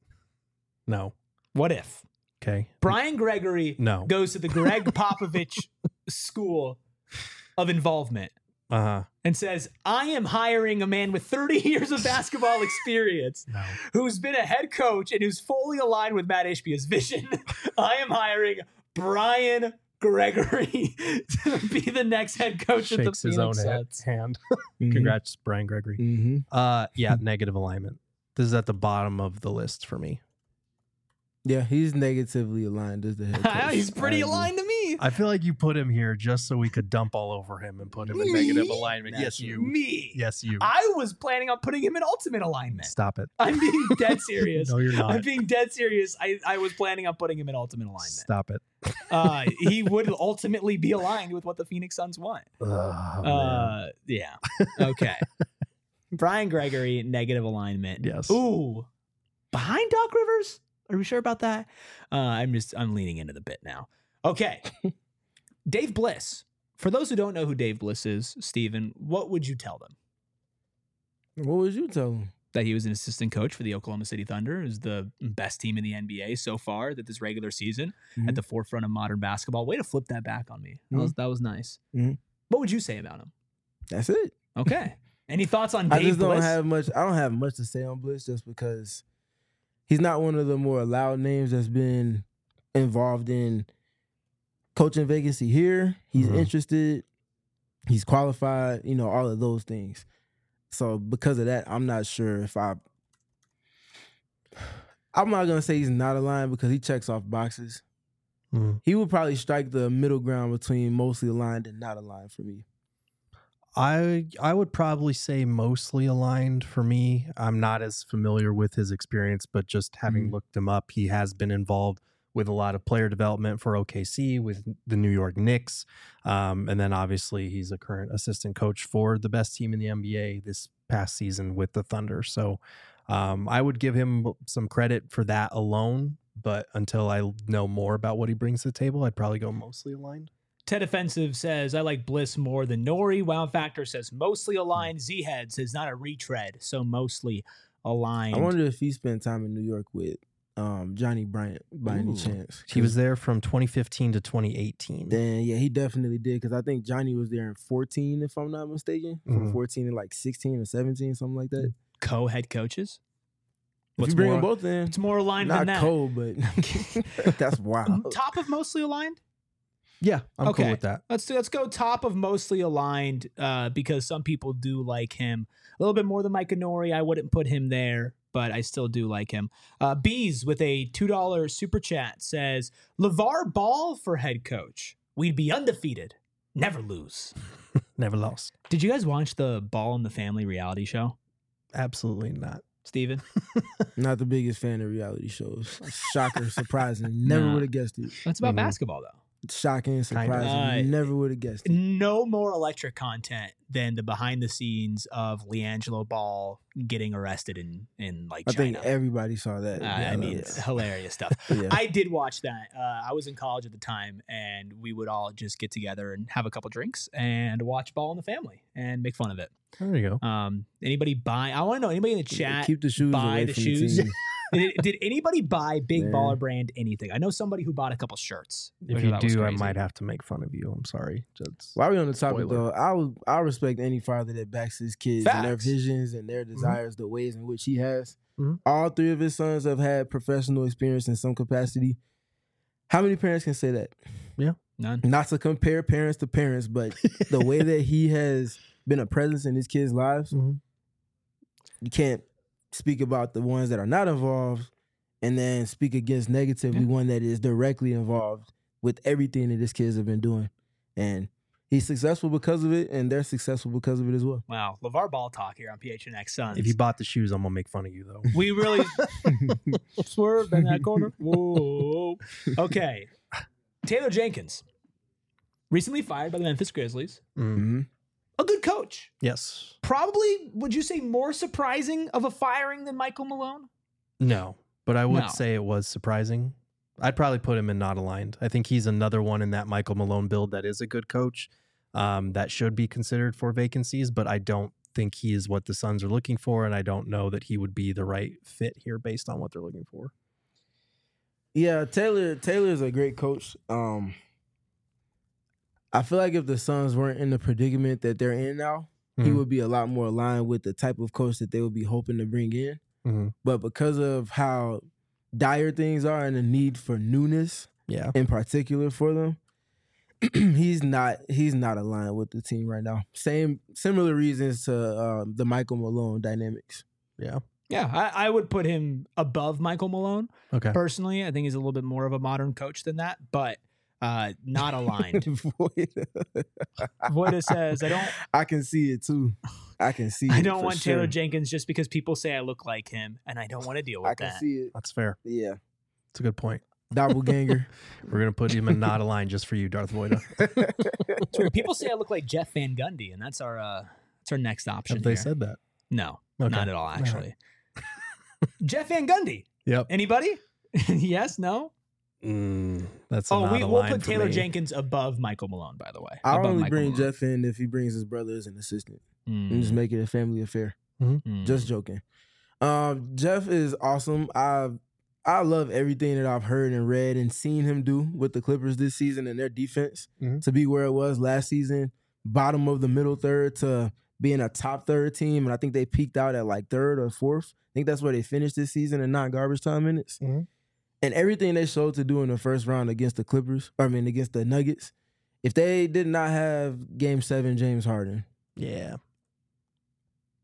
What if? Okay. Brian Gregory No. goes to the Greg Popovich School of Involvement Uh-huh. and says, I am hiring a man with 30 years of basketball experience No. who's been a head coach and who's fully aligned with Matt Ishbia's vision. I am hiring Brian Gregory to be the next head coach of the Shakes his own Phoenix Suns. hand. Congrats, Brian Gregory. Mm-hmm. Yeah, negative alignment. This is at the bottom of the list for me. Yeah, he's negatively aligned as the head coach. He's pretty I agree. aligned to me. I feel like you put him here just so we could dump all over him and put him in negative alignment. Yes, you. Me. Yes, you. I was planning on putting him in ultimate alignment. Stop it. I'm being dead serious. No, you're I'm not. being dead serious. I was planning on putting him in ultimate alignment. Stop it. He would ultimately be aligned with what the Phoenix Suns want. Man. Yeah. Okay. Brian Gregory, negative alignment. Yes. Ooh. Behind Doc Rivers? Are we sure about that? I'm leaning into the bit now. Okay. Dave Bliss. For those who don't know who Dave Bliss is, Steven, what would you tell them? What would you tell him? That he was an assistant coach for the Oklahoma City Thunder, who's the best team in the NBA so far that this regular season, at the forefront of modern basketball. Way to flip that back on me. That was nice. What would you say about him? That's it. Okay. Any thoughts on I Dave just don't Bliss? have much. I don't have much to say on Bliss just because he's not one of the more loud names that's been involved in coaching vacancy here. He's interested. He's qualified. You know, all of those things. So because of that, I'm not sure if I'm not gonna say he's not aligned because he checks off boxes. He would probably strike the middle ground between mostly aligned and not aligned for me. I would probably say mostly aligned for me. I'm not as familiar with his experience, but just having looked him up, he has been involved with a lot of player development for OKC, with the New York Knicks. And then obviously he's a current assistant coach for the best team in the NBA this past season with the Thunder. So I would give him some credit for that alone. But until I know more about what he brings to the table, I'd probably go mostly aligned. Ted Offensive says, I like Bliss more than Nori. Wow Factor says, mostly aligned. Z-Head says, not a retread, so mostly aligned. I wonder if he spent time in New York with Johnny Bryant by any chance. He was there from 2015 to 2018. Then, yeah, he definitely did because I think Johnny was there in 14, if I'm not mistaken. From 14 to like 16 or 17, something like that. Co-head coaches? If you bring them both in. It's more aligned than that. Not cold, but that's wild. Top of mostly aligned? Yeah, I'm cool with that. Let's go top of mostly aligned because some people do like him a little bit more than Mike Nori. I wouldn't put him there, but I still do like him. Bees with a $2 super chat says, LeVar Ball for head coach. We'd be undefeated. Never lose. Never lost. Did you guys watch the Ball in the Family reality show? Absolutely not. Steven? Not the biggest fan of reality shows. Shocker, surprising. Never would have guessed it. That's about basketball, though. Shocking, surprising. Never would have guessed it. No more electric content than the behind the scenes of LiAngelo Ball getting arrested in like China. I think everybody saw that. I mean, it's hilarious stuff. Yeah. I did watch that. I was in college at the time, and we would all just get together and have a couple drinks and watch Ball in the Family and make fun of it. There you go. Anybody buy? I want to know. Anybody in the chat keep the shoes buy away the from shoes? The team. Did anybody buy Big Baller Brand anything? I know somebody who bought a couple shirts. If you do, I might have to make fun of you. I'm sorry. While we're on the topic, though, I respect any father that backs his kids and their visions and their desires, the ways in which he has. All three of his sons have had professional experience in some capacity. How many parents can say that? Yeah. None. Not to compare parents to parents, but the way that he has been a presence in his kids' lives, you can't speak about the ones that are not involved and then speak against negatively one that is directly involved with everything that his kids have been doing. And he's successful because of it, and they're successful because of it as well. Wow. LeVar Ball talk here on PHNX Suns. If you bought the shoes, I'm going to make fun of you, though. We really swerved in that corner. Whoa. Okay. Taylor Jenkins, recently fired by the Memphis Grizzlies. A good coach. Yes. Probably, would you say, more surprising of a firing than Michael Malone? No, but I would say it was surprising. I'd probably put him in not aligned. I think he's another one in that Michael Malone build that is a good coach that should be considered for vacancies, but I don't think he is what the Suns are looking for, and I don't know that he would be the right fit here based on what they're looking for. Yeah, Taylor's a great coach. I feel like if the Suns weren't in the predicament that they're in now, he would be a lot more aligned with the type of coach that they would be hoping to bring in. But because of how dire things are and the need for newness, in particular for them, he's not aligned with the team right now. Similar reasons to the Michael Malone dynamics. Yeah, I would put him above Michael Malone. Okay. Personally, I think he's a little bit more of a modern coach than that, but not aligned. Voida says, I can see it too. I can see it. I don't want sure. Taylor Jenkins just because people say I look like him, and I don't want to deal with that. I can see it. That's fair. Yeah. It's a good point. Doppelganger. We're going to put him in not aligned just for you, Darth Voida. People say I look like Jeff Van Gundy, and that's our next option. Have they said that? No, Okay. not at all, actually. Jeff Van Gundy. Yep. Anybody? Yes, no? That's we'll put Taylor Jenkins above Michael Malone, by the way. I'll Above only Michael bring Malone. Jeff in if he brings his brother as an assistant. And just make it a family affair. Just joking. Jeff is awesome. I love everything that I've heard and read and seen him do with the Clippers this season and their defense to be where it was last season, bottom of the middle third to being a top third team. And I think they peaked out at like third or fourth. I think that's where they finished this season in non-garbage time minutes. And everything they showed to do in the first round against the against the Nuggets, if they did not have Game 7 James Harden,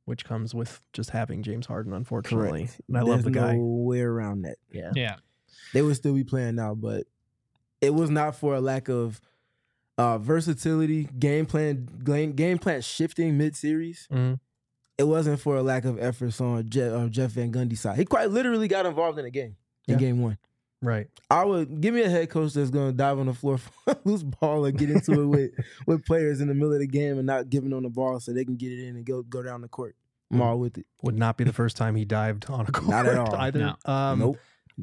which comes with just having James Harden, unfortunately. Correct. And I love the guy. No way around that. Yeah. Yeah. They would still be playing now, but it was not for a lack of versatility, game plan shifting mid-series. Mhm. It wasn't for a lack of efforts on Jeff Van Gundy's side. He quite literally got involved in a game in game one. Right. I would give me a head coach that's going to dive on the floor for a loose ball and get into it with players in the middle of the game and not giving them the ball so they can get it in and go down the court. I'm all with it. Would not be the first time he dived on a court. Not at all. Either. No. Nope.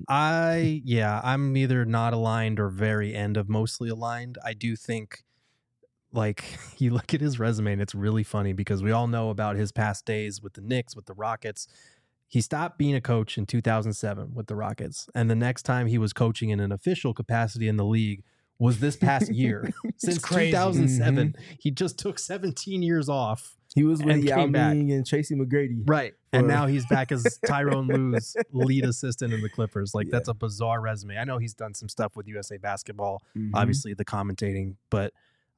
I'm either not aligned or very end of mostly aligned. I do think, like, you look at his resume and it's really funny because we all know about his past days with the Knicks, with the Rockets. He stopped being a coach in 2007 with the Rockets. And the next time he was coaching in an official capacity in the league was this past year. Since crazy. 2007, he just took 17 years off. He was with And Yao came back. Ming and Tracy McGrady. Right. And For- now he's back as Tyrone Lue's lead assistant in the Clippers. Like, that's a bizarre resume. I know he's done some stuff with USA Basketball, obviously the commentating, but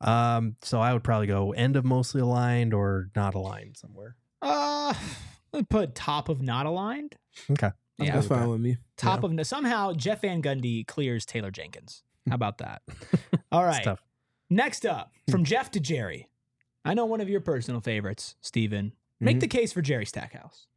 so I would probably go end of mostly aligned or not aligned somewhere. I'd put top of not aligned. Okay. Yeah. That's fine with me. Top of somehow Jeff Van Gundy clears Taylor Jenkins. How about that? All It's right. tough. Next up, from Jeff to Jerry. I know one of your personal favorites, Steven. Make the case for Jerry Stackhouse.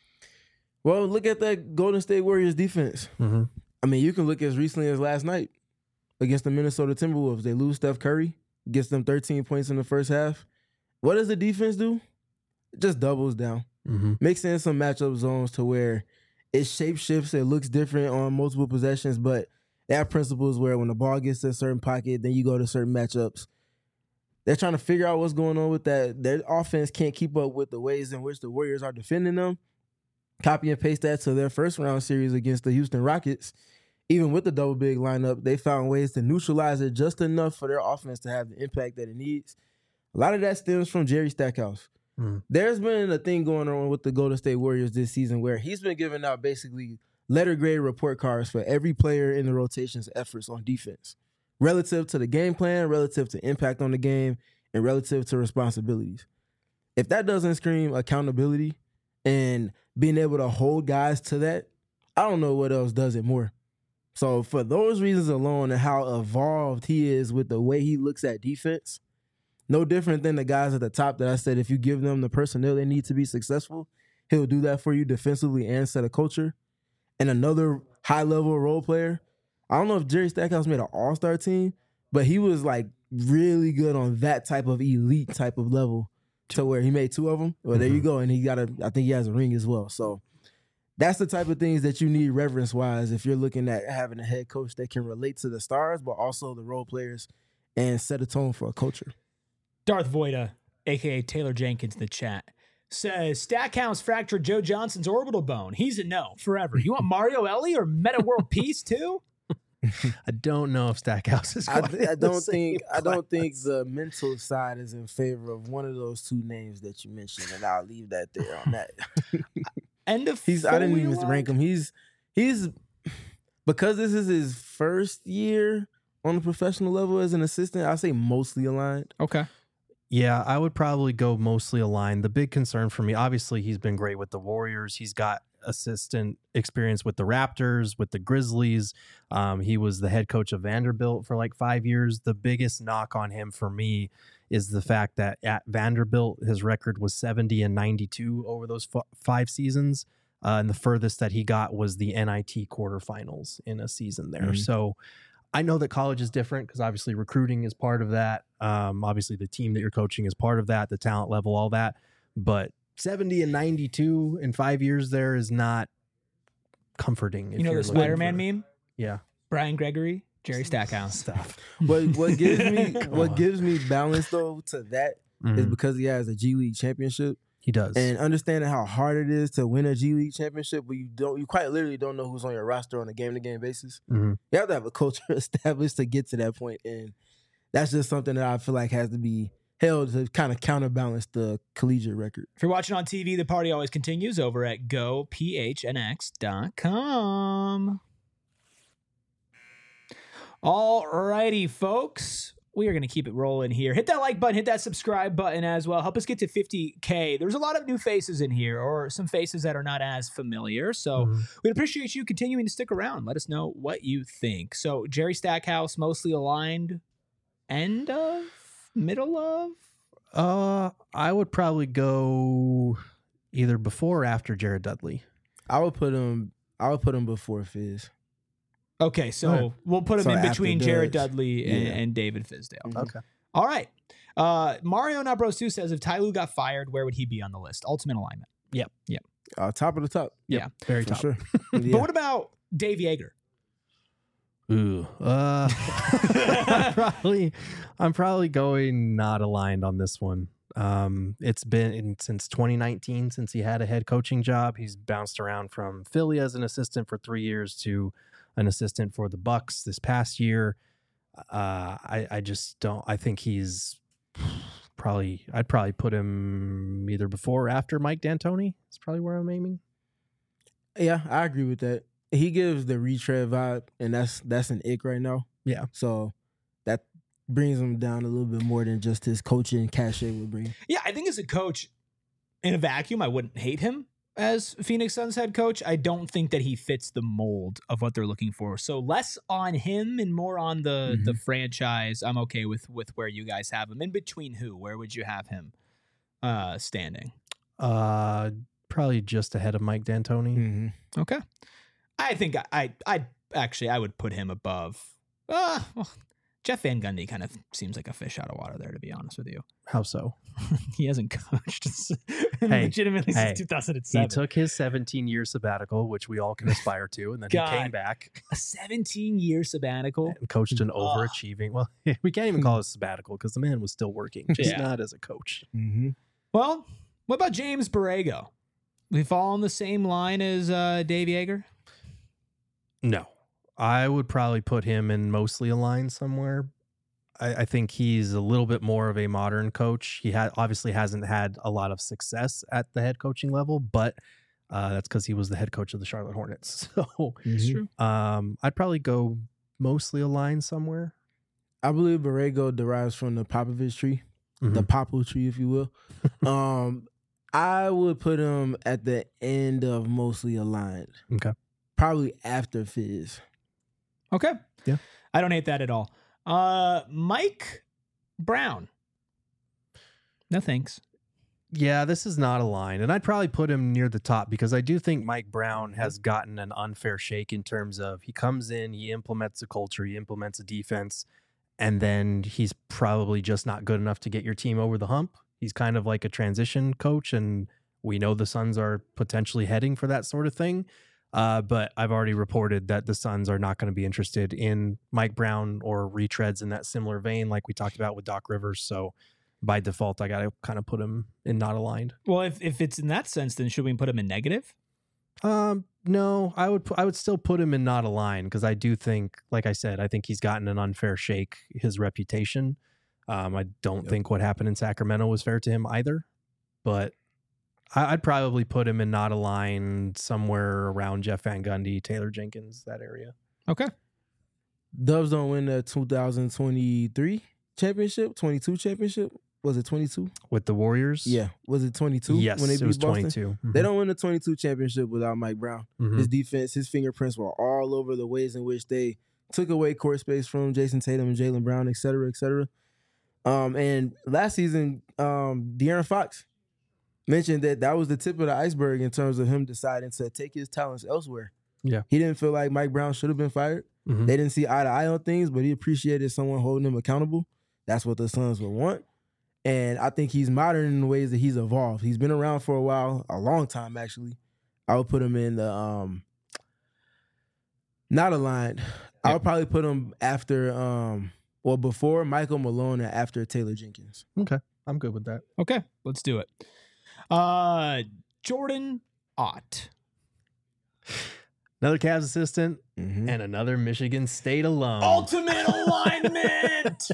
Well, look at that Golden State Warriors defense. Mm-hmm. I mean, you can look as recently as last night against the Minnesota Timberwolves. They lose Steph Curry, gets them 13 points in the first half. What does the defense do? It just doubles down. Mm-hmm. Mix in some matchup zones to where it shape shifts. It looks different on multiple possessions, but they have principles where when the ball gets to a certain pocket, then you go to certain matchups. They're trying to figure out what's going on with that. Their offense can't keep up with the ways in which the Warriors are defending them. Copy and paste that to their first round series against the Houston Rockets. Even with the double big lineup, they found ways to neutralize it just enough for their offense to have the impact that it needs. A lot of that stems from Jerry Stackhouse. There's been a thing going on with the Golden State Warriors this season where he's been giving out basically letter grade report cards for every player in the rotation's efforts on defense, relative to the game plan, relative to impact on the game, and relative to responsibilities. If that doesn't scream accountability and being able to hold guys to that, I don't know what else does it more. So for those reasons alone and how evolved he is with the way he looks at defense, no different than the guys at the top that I said, if you give them the personnel they need to be successful, he'll do that for you defensively and set a culture. And another high-level role player, I don't know if Jerry Stackhouse made an all-star team, but he was like really good on that type of elite type of level to where he made 2 of them. Well, there you go. And I think he has a ring as well. So that's the type of things that you need reverence-wise if you're looking at having a head coach that can relate to the stars, but also the role players and set a tone for a culture. Darth Voida, a.k.a. Taylor Jenkins in the chat, says Stackhouse fractured Joe Johnson's orbital bone. He's a no forever. You want Mario Ellie or Meta World Peace too? I don't know if Stackhouse is I quite don't think the mental side is in favor of one of those 2 names that you mentioned, and I'll leave that there on that. End of I didn't even fully rank him. He's because this is his first year on the professional level as an assistant, I'll say mostly aligned. Okay. Yeah, I would probably go mostly aligned. The big concern for me, obviously, he's been great with the Warriors. He's got assistant experience with the Raptors, with the Grizzlies. He was the head coach of Vanderbilt for like 5 years. The biggest knock on him for me is the fact that at Vanderbilt, his record was 70-92 over those 5 seasons. And the furthest that he got was the NIT quarterfinals in a season there. So I know that college is different because obviously recruiting is part of that. Obviously the team that you're coaching is part of that, the talent level, all that. But 70-92 in 5 years there is not comforting. You know the Spider-Man meme? Yeah. Brian Gregory, Jerry Stackhouse. Stuff. What gives me balance though to that is because he has a G League championship. He does. And understanding how hard it is to win a G League championship, but you quite literally don't know who's on your roster on a game-to-game basis. You have to have a culture established to get to that point, and that's just something that I feel like has to be held to kind of counterbalance the collegiate record. If you're watching on TV, the party always continues over at gophnx.com. All righty, folks. we are going to keep it rolling here. Hit that like button, hit that subscribe button as well. Help us get to 50K. There's a lot of new faces in here, or some faces that are not as familiar. So we'd appreciate you continuing to stick around. Let us know what you think. So Jerry Stackhouse, mostly aligned, end of, middle of? I would probably go either before or after Jared Dudley. I would put him before Fizz. Okay, so Right. we'll put him So in after between Jared Dudge. Dudley Yeah. and David Fizdale. Mhm. Okay. All right. Mario Not Bros 2 says, if Ty Lue got fired, where would he be on the list? Ultimate alignment. Top of the top. Yeah, Very For top. sure. But Yeah. what about Dave Yeager? Ooh. I'm probably going not aligned on this one. It's been since 2019 since he had a head coaching job. He's bounced around from Philly as an assistant for 3 years to an assistant for the Bucks this past year. I just don't. I think he's I'd probably put him either before or after Mike D'Antoni. That's probably where I'm aiming. Yeah, I agree with that. He gives the retread vibe, and that's an ick right now. Yeah. So that brings him down a little bit more than just his coaching cachet would bring. Yeah, I think as a coach, in a vacuum, I wouldn't hate him as Phoenix Suns head coach. I don't think that he fits the mold of what they're looking for. So less on him and more on the franchise. I'm okay with where you guys have him. In between who? Where would you have him standing? Probably just ahead of Mike D'Antoni. Mm-hmm. Okay. I think I would put him above. Well, Jeff Van Gundy kind of seems like a fish out of water there, to be honest with you. How so? He hasn't coached Hey, legitimately since 2007. He took his 17-year sabbatical, which we all can aspire to, and then he God. came back A 17-year sabbatical. and coached an overachieving. Well, we can't even call it a sabbatical because the man was still working, just Yeah. not as a coach. Mm-hmm. Well, what about James Borrego? We fall on the same line as Dave Yeager? No, I would probably put him in mostly aligned somewhere. I think he's a little bit more of a modern coach. He obviously hasn't had a lot of success at the head coaching level, but that's because he was the head coach of the Charlotte Hornets. So It's true. I'd probably go mostly aligned somewhere. I believe Borrego derives from the Popovich tree, the Popo tree, if you will. I would put him at the end of mostly aligned. Okay. Probably after Fizz. Okay. Yeah. I don't hate that at all. Mike Brown. No thanks. Yeah, this is not aligned. And I'd probably put him near the top because I do think Mike Brown has gotten an unfair shake in terms of he comes in, he implements a culture, he implements a defense, and then he's probably just not good enough to get your team over the hump. He's kind of like a transition coach, and we know the Suns are potentially heading for that sort of thing. But I've already reported that the Suns are not going to be interested in Mike Brown or retreads in that similar vein like we talked about with Doc Rivers. So by default, I got to kind of put him in not aligned. Well, if it's in that sense, then should we put him in negative? No, I would still put him in not aligned because I do think, like I said, I think he's gotten an unfair shake, his reputation. I don't think what happened in Sacramento was fair to him either, but I'd probably put him in not aligned somewhere around Jeff Van Gundy, Taylor Jenkins, that area. Okay. Dubs don't win the 2023 championship, 22 championship. Was it 22? With the Warriors? Yeah. Was it 22? Yes, when they it beat was Boston? 22. They don't win the 22 championship without Mike Brown. Mhm. His defense, his fingerprints were all over the ways in which they took away court space from Jason Tatum and Jaylen Brown, et cetera, et cetera. And last season, De'Aaron Fox mentioned that was the tip of the iceberg in terms of him deciding to take his talents elsewhere. Yeah. He didn't feel like Mike Brown should have been fired. Mhm. They didn't see eye to eye on things, but he appreciated someone holding him accountable. That's what the Suns would want. And I think he's modern in the ways that he's evolved. He's been around for a while, a long time actually. I would put him in the not aligned. I would probably put him after before Michael Malone and after Taylor Jenkins. Okay. I'm good with that. Okay. Let's do it. Jordan Ott. Another Cavs assistant Mm-hmm. and another Michigan State alum. Ultimate alignment.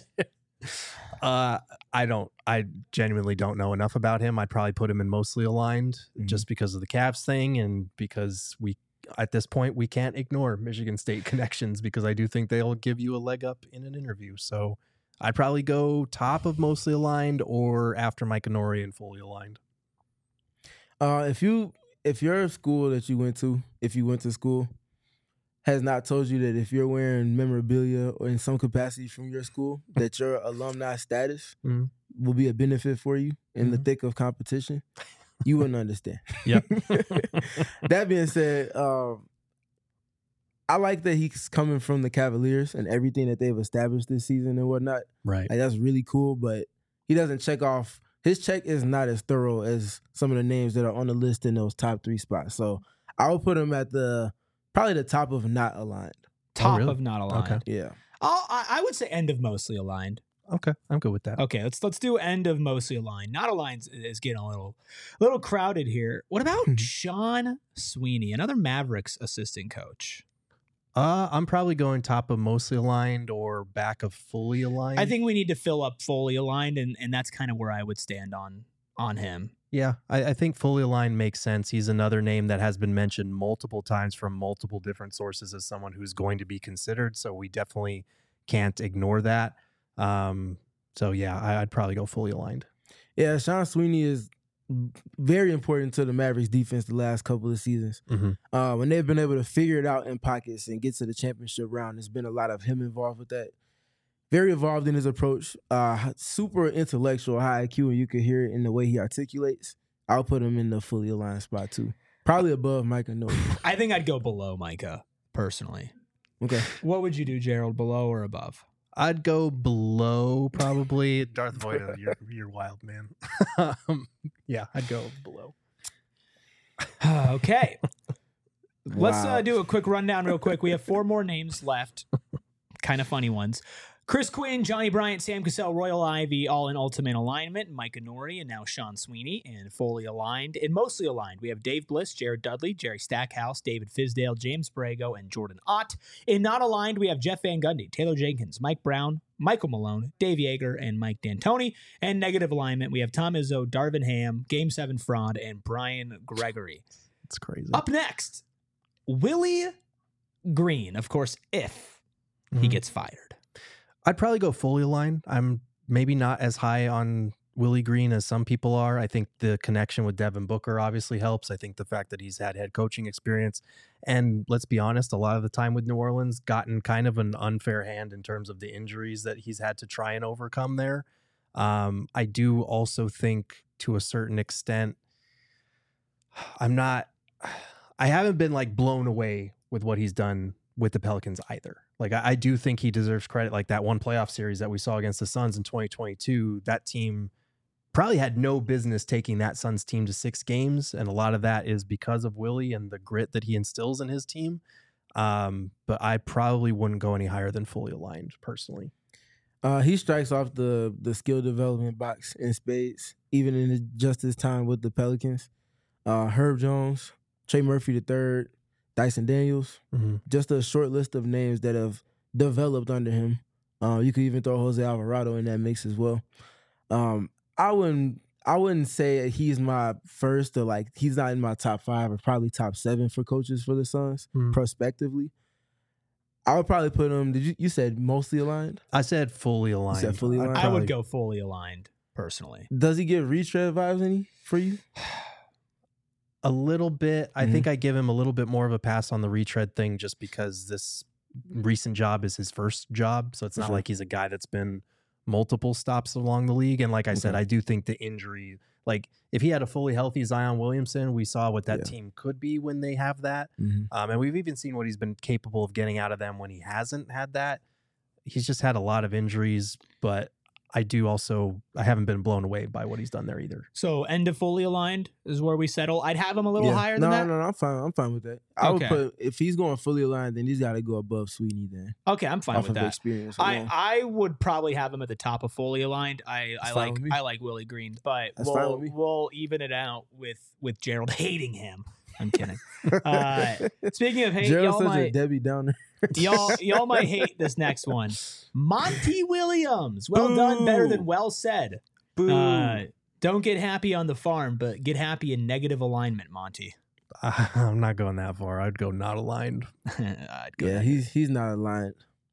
I genuinely don't know enough about him. I'd probably put him in mostly aligned just because of the Cavs thing and because at this point, we can't ignore Michigan State connections because I do think they'll give you a leg up in an interview. So I'd probably go top of mostly aligned or after Mike Nori and fully aligned. If your school that you went to, if you went to school, has not told you that if you're wearing memorabilia or in some capacity from your school, that your alumni status Mhm. will be a benefit for you in the thick of competition, you wouldn't understand. Yep. That being said, I like that he's coming from the Cavaliers and everything that they've established this season and whatnot. Right. Like, that's really cool, but he doesn't check off. His check is not as thorough as some of the names that are on the list in those top 3 spots. So I would put him at probably the top of not aligned. Top really? of not aligned. Okay. Yeah. I would say end of mostly aligned. Okay. I'm good with that. Okay, let's do end of mostly aligned. Not aligned is getting a little crowded here. What about Sean Sweeney, another Mavericks assistant coach? I'm probably going top of mostly aligned or back of fully aligned. I think we need to fill up fully aligned, and that's kind of where I would stand on him. Yeah, I think fully aligned makes sense. He's another name that has been mentioned multiple times from multiple different sources as someone who's going to be considered. So we definitely can't ignore that. So yeah, I'd probably go fully aligned. Yeah, Sean Sweeney is very important to the Mavericks defense the last couple of seasons. Mm-hmm. When they've been able to figure it out in pockets and get to the championship round, there's been a lot of him involved with that. Very involved in his approach, super intellectual, high IQ, and you could hear it in the way he articulates. I'll put him in the fully aligned spot too. Probably above Micah Nori. I think I'd go below Micah, personally. Okay. What would you do, Gerald, below or above? I'd go below probably. Darth Vader, you're wild, man. Yeah, I'd go below. Okay. Let's Wow. do a quick rundown real quick. We have 4 more names left. Kind of funny ones. Chris Quinn, Johnny Bryant, Sam Cassell, Royal Ivy, all in ultimate alignment. Micah Nori and now Sean Sweeney, and fully aligned. And mostly aligned, we have Dave Bliss, Jared Dudley, Jerry Stackhouse, David Fizdale, James Brago, and Jordan Ott. In not aligned, we have Jeff Van Gundy, Taylor Jenkins, Mike Brown, Michael Malone, Dave Yeager, and Mike D'Antoni. And negative alignment, we have Tom Izzo, Darvin Ham, Game 7 Fraud, and Brian Gregory. It's crazy. Up next, Willie Green, of course, if he Mhm. gets fired. I'd probably go fully aligned. I'm maybe not as high on Willie Green as some people are. I think the connection with Devin Booker obviously helps. I think the fact that he's had head coaching experience, and let's be honest, a lot of the time with New Orleans, gotten kind of an unfair hand in terms of the injuries that he's had to try and overcome there. I do also think to a certain extent, I haven't been like blown away with what he's done with the Pelicans either. Like I do think he deserves credit. Like that one playoff series that we saw against the Suns in 2022, that team probably had no business taking that Suns team to 6 games. And a lot of that is because of Willie and the grit that he instills in his team. But I probably wouldn't go any higher than fully aligned personally. He strikes off the skill development box in spades, even in just his time with the Pelicans. Herb Jones, Trey Murphy III, Dyson Daniels, just a short list of names that have developed under him. You could even throw Jose Alvarado in that mix as well. I wouldn't say he's my first, or like he's not in my top 5 or probably top 7 for coaches for the Suns prospectively. I would probably put him. You said mostly aligned? I said fully aligned. You said fully aligned? I would go fully aligned, personally. Does he give retread vibes for you? A little bit. I think I give him a little bit more of a pass on the retread thing just because this recent job is his first job. So it's not like he's a guy that's been multiple stops along the league. And like I said, I do think the injury, like if he had a fully healthy Zion Williamson, we saw what that team could be when they have that. And we've even seen what he's been capable of getting out of them when he hasn't had that. He's just had a lot of injuries, but I haven't been blown away by what he's done there either. So end of fully aligned is where we settle. I'd have him a little higher than that. No, I'm fine. I'm fine with that. I would put, if he's going fully aligned, then he's got to go above Sweeney then. Okay, I'm fine with that. Experience I would probably have him at the top of fully aligned. I like Willie Green, but we'll even it out with Gerald hating him. I'm kidding. Speaking of hate, Gerald's such a Debbie Downer. y'all might hate this next one. Monty Williams. Well done, better than well said. Don't get happy on the farm, but get happy in negative alignment, Monty. I'm not going that far. I'd go not aligned. I'd go he's not aligned.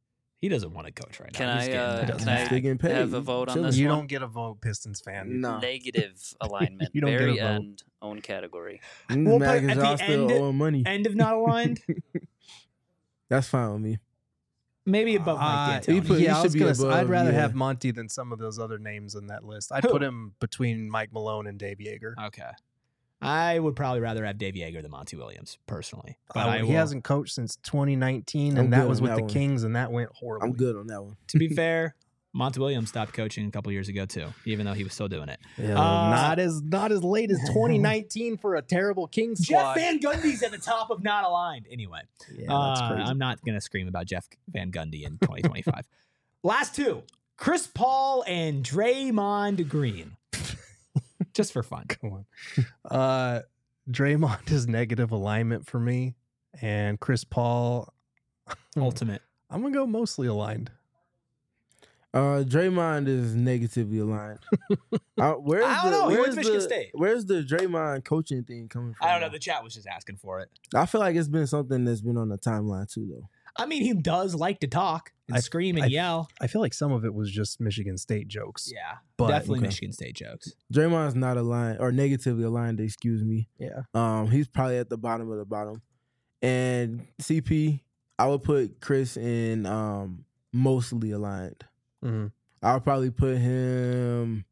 He doesn't want to coach right Can now. He's I getting paid. have a vote on this You one? don't get a vote, Pistons fan. No. Negative alignment. You don't get a Very vote. end. Own category. We'll Mad put 'cause at y'all the still end- owing money. End of not aligned. That's fine with me. Maybe above Mike he D'Antoni. put- Yeah, I should was be gonna say, I'd above, rather yeah. have Monty than some of those other names on that list. I'd Who? put him between Mike Malone and Dave Yeager. Okay. I would probably rather have Dave Yeager than Monty Williams, personally. But He hasn't coached since 2019, I'm and that good was on with that the one. Kings, and that went horribly. I'm good on that one. To be fair, Monty Williams stopped coaching a couple years ago too, even though he was still doing it. Yeah, Uh, not as late as 2019 for a terrible Kings Jeff squad. Van Gundy's at the top of not aligned. Anyway, Yeah, that's crazy. I'm not going to scream about Jeff Van Gundy in 2025. Last two, Chris Paul and Draymond Green. Just for fun. Come on. Draymond is negative alignment for me, and Chris Paul, Ultimate. I'm gonna go mostly aligned. Draymond is negatively aligned. Where's I don't know. He went to Michigan the, State. Where's the Draymond coaching thing coming from? I don't know. The chat was just asking for it. I feel like it's been something that's been on the timeline too, though. I mean, he does like to talk and scream and yell. I feel like some of it was just Michigan State jokes. Yeah, But- definitely okay. Michigan State jokes. Draymond's not aligned or negatively aligned. Excuse me. Yeah. He's probably at the bottom of the bottom. And CP, I would put Chris in mostly aligned. hmm I would probably put him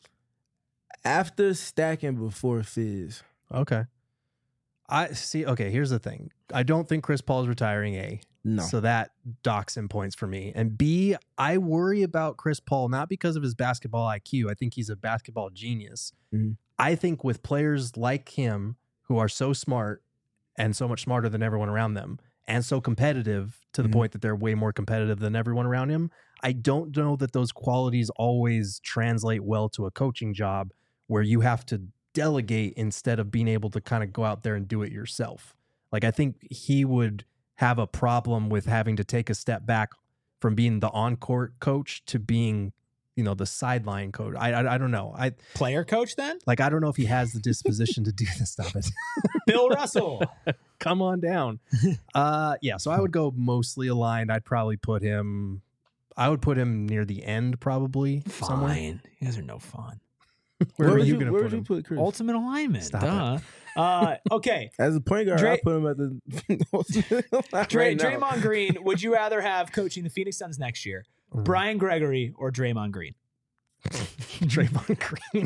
after Stack and before Fizz. Okay. I see. Okay, here's the thing. I don't think Chris Paul's retiring. A. No. So that docks him points for me. And B, I worry about Chris Paul, not because of his basketball IQ. I think he's a basketball genius. Mhm. I think with players like him who are so smart and so much smarter than everyone around them and so competitive to the Mhm. point that they're way more competitive than everyone around him, I don't know that those qualities always translate well to a coaching job where you have to delegate instead of being able to kind of go out there and do it yourself. Like, I think he would have a problem with having to take a step back from being the on-court coach to being, the sideline coach. I don't know. Player coach then? I don't know if he has the disposition to do this stuff. Bill Russell. Come on down. Yeah, so I would go mostly aligned. I'd probably put him near the end, probably somewhere. Fine. You guys are no fun. Where would are you going to where put would you him? put Chris? Ultimate alignment. Stop Duh. Okay. As a point guard, Dray- I put him at the right now. Draymond Green, would you rather have coaching the Phoenix Suns next year? Mm. Brian Gregory or Draymond Green? Draymond Green.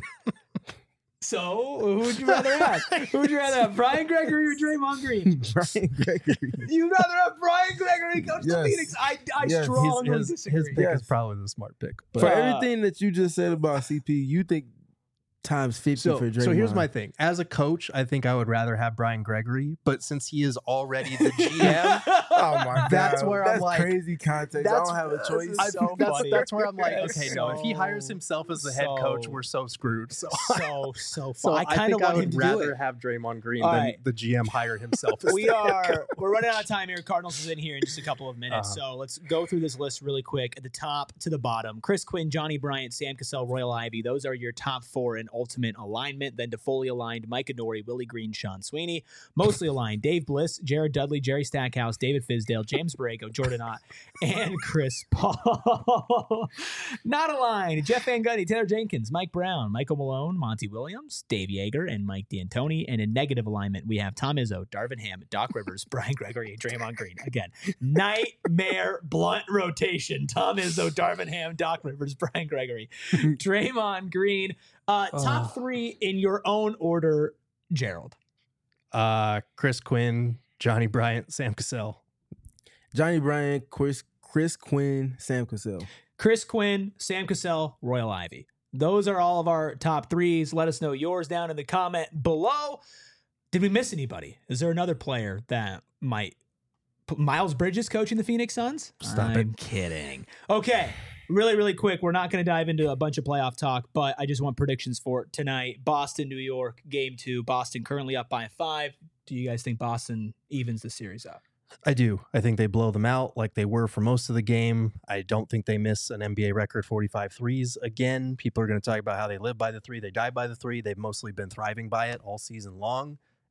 So, who would you rather have? Who would you rather have, Brian Gregory or Draymond Green? Brian Gregory. You'd rather have Brian Gregory coach the Yes. Phoenix? I Yes. strongly His disagree. pick Yes. is probably the smart pick. But For everything that you just said about CP, you think times 50 for Draymond. So here's my thing. As a coach, I think I would rather have Brian Gregory, but since he is already the GM, Oh my god, That's where I'm that's like- crazy context. I that's- don't have a choice. is so funny. that's where I'm like, That's okay, no, if he hires so- himself as the head coach, so- we're so screwed. So, so so fun. I kind of think I want him would to do rather it. have Draymond Green All than right. the GM hire himself. as We're the head coach. running out of time here. Cardinals is in here in just a couple of minutes, so let's go through this list really quick. At the top to the bottom: Chris Quinn, Johnny Bryant, Sam Cassell, Royal Ivy. Those are your top four in ultimate alignment. Then to fully aligned: Mike Adoree, Willie Green, Sean Sweeney. Mostly aligned: Dave Bliss, Jared Dudley, Jerry Stackhouse, David Fizdale, James Borrego, Jordan Ott, and Chris Paul. Not aligned: Jeff Van Gundy, Taylor Jenkins, Mike Brown, Michael Malone, Monty Williams, Dave Yeager, and Mike D'Antoni. And in negative alignment, we have Tom Izzo, Darvin Ham, Doc Rivers, Brian Gregory, and Draymond Green. Again, nightmare blunt rotation: Tom Izzo, Darvin Ham, Doc Rivers, Brian Gregory, Draymond Green. Top three in your own order, Gerald. Chris Quinn, Johnny Bryant, Sam Cassell. Johnny Bryant, Chris Quinn, Sam Cassell. Chris Quinn, Sam Cassell, Royal Ivy. Those are all of our top threes. Let us know yours down in the comment below. Did we miss anybody? Is there another player that might... Miles Bridges coaching the Phoenix Suns? Stop it. I'm kidding. Okay. Really, really quick. We're not going to dive into a bunch of playoff talk, but I just want predictions for tonight. Boston, New York, game 2. Boston currently up by 5. Do you guys think Boston evens the series out? I do. I think they blow them out like they were for most of the game. I don't think they miss an NBA record 45 threes again. People are going to talk about how they live by the three. They die by the three. They've mostly been thriving by it all season long.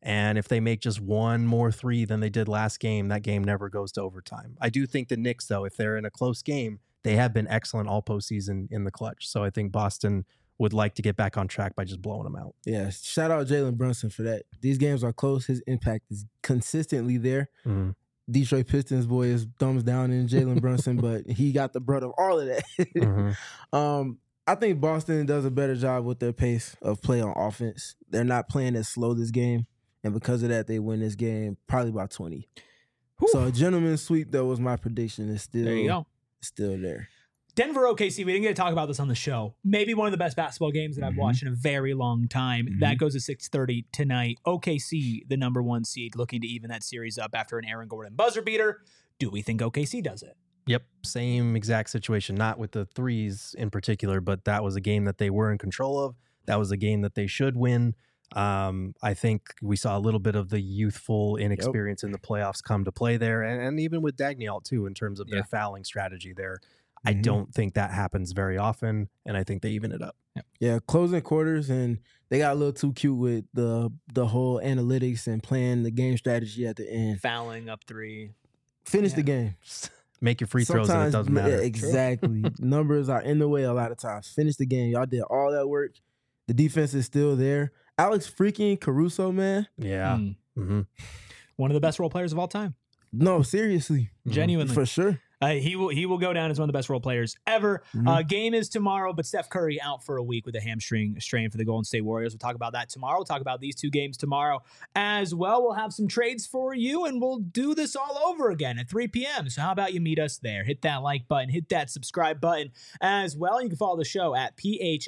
And if they make just one more three than they did last game, that game never goes to overtime. I do think the Knicks, though, if they're in a close game, they have been excellent all postseason in the clutch. So I think Boston would like to get back on track by just blowing them out. Yeah, shout out Jalen Brunson for that. These games are close. His impact is consistently there. Mm-hmm. Detroit Pistons boy is thumbs down in Jalen Brunson, but he got the brunt of all of that. Mm-hmm. I think Boston does a better job with their pace of play on offense. They're not playing as slow this game, and because of that, they win this game probably by 20. Whew. So a gentleman's sweep, though, was my prediction. It's still There you go. Still there. Denver OKC, we didn't get to talk about this on the show. Maybe one of the best basketball games that I've watched in a very long time. That goes to 6:30 tonight. OKC, the number 1 seed, looking to even that series up after an Aaron Gordon buzzer beater. Do we think OKC does it? Yep, same exact situation. Not with the threes in particular, but that was a game that they were in control of. That was a game that they should win. I think we saw a little bit of the youthful inexperience in the playoffs come to play there, and even with Daigneault too, in terms of their fouling strategy there. I don't think that happens very often, and I think they even it up. Yeah, closing quarters, and they got a little too cute with the whole analytics and playing the game strategy at the end. Fouling up 3. Finish the game. Make your free throws, and it doesn't matter. Exactly. Numbers are in the way a lot of times. Finish the game. Y'all did all that work. The defense is still there. Alex freaking Caruso, man. Yeah. Mm-hmm. One of the best role players of all time. No, seriously. Genuinely. For sure. He will go down as one of the best role players ever. Game is tomorrow, but Steph Curry out for a week with a hamstring strain for the Golden State Warriors. We'll talk about that tomorrow. We'll talk about these 2 games tomorrow as well. We'll have some trades for you, and we'll do this all over again at 3 p.m. So how about you meet us there? Hit that like button, hit that subscribe button as well. You can follow the show at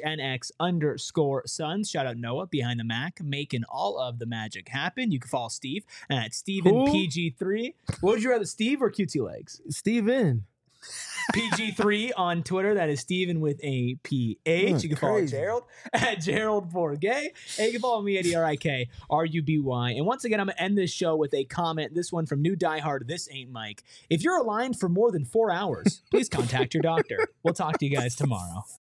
PHNX_Suns. Shout out Noah behind the Mac, making all of the magic happen. You can follow Steve at StevenPG3. What would you rather, Steve or QT Legs? Steven. PG3 on Twitter. That is Steven with a PH. You can follow Gerald at Gerald Bourget. And you can follow me at ERIKRUBY. And once again, I'm going to end this show with a comment. This one from New Diehard. This ain't Mike. If you're aligned for more than 4 hours, please contact your doctor. We'll talk to you guys tomorrow.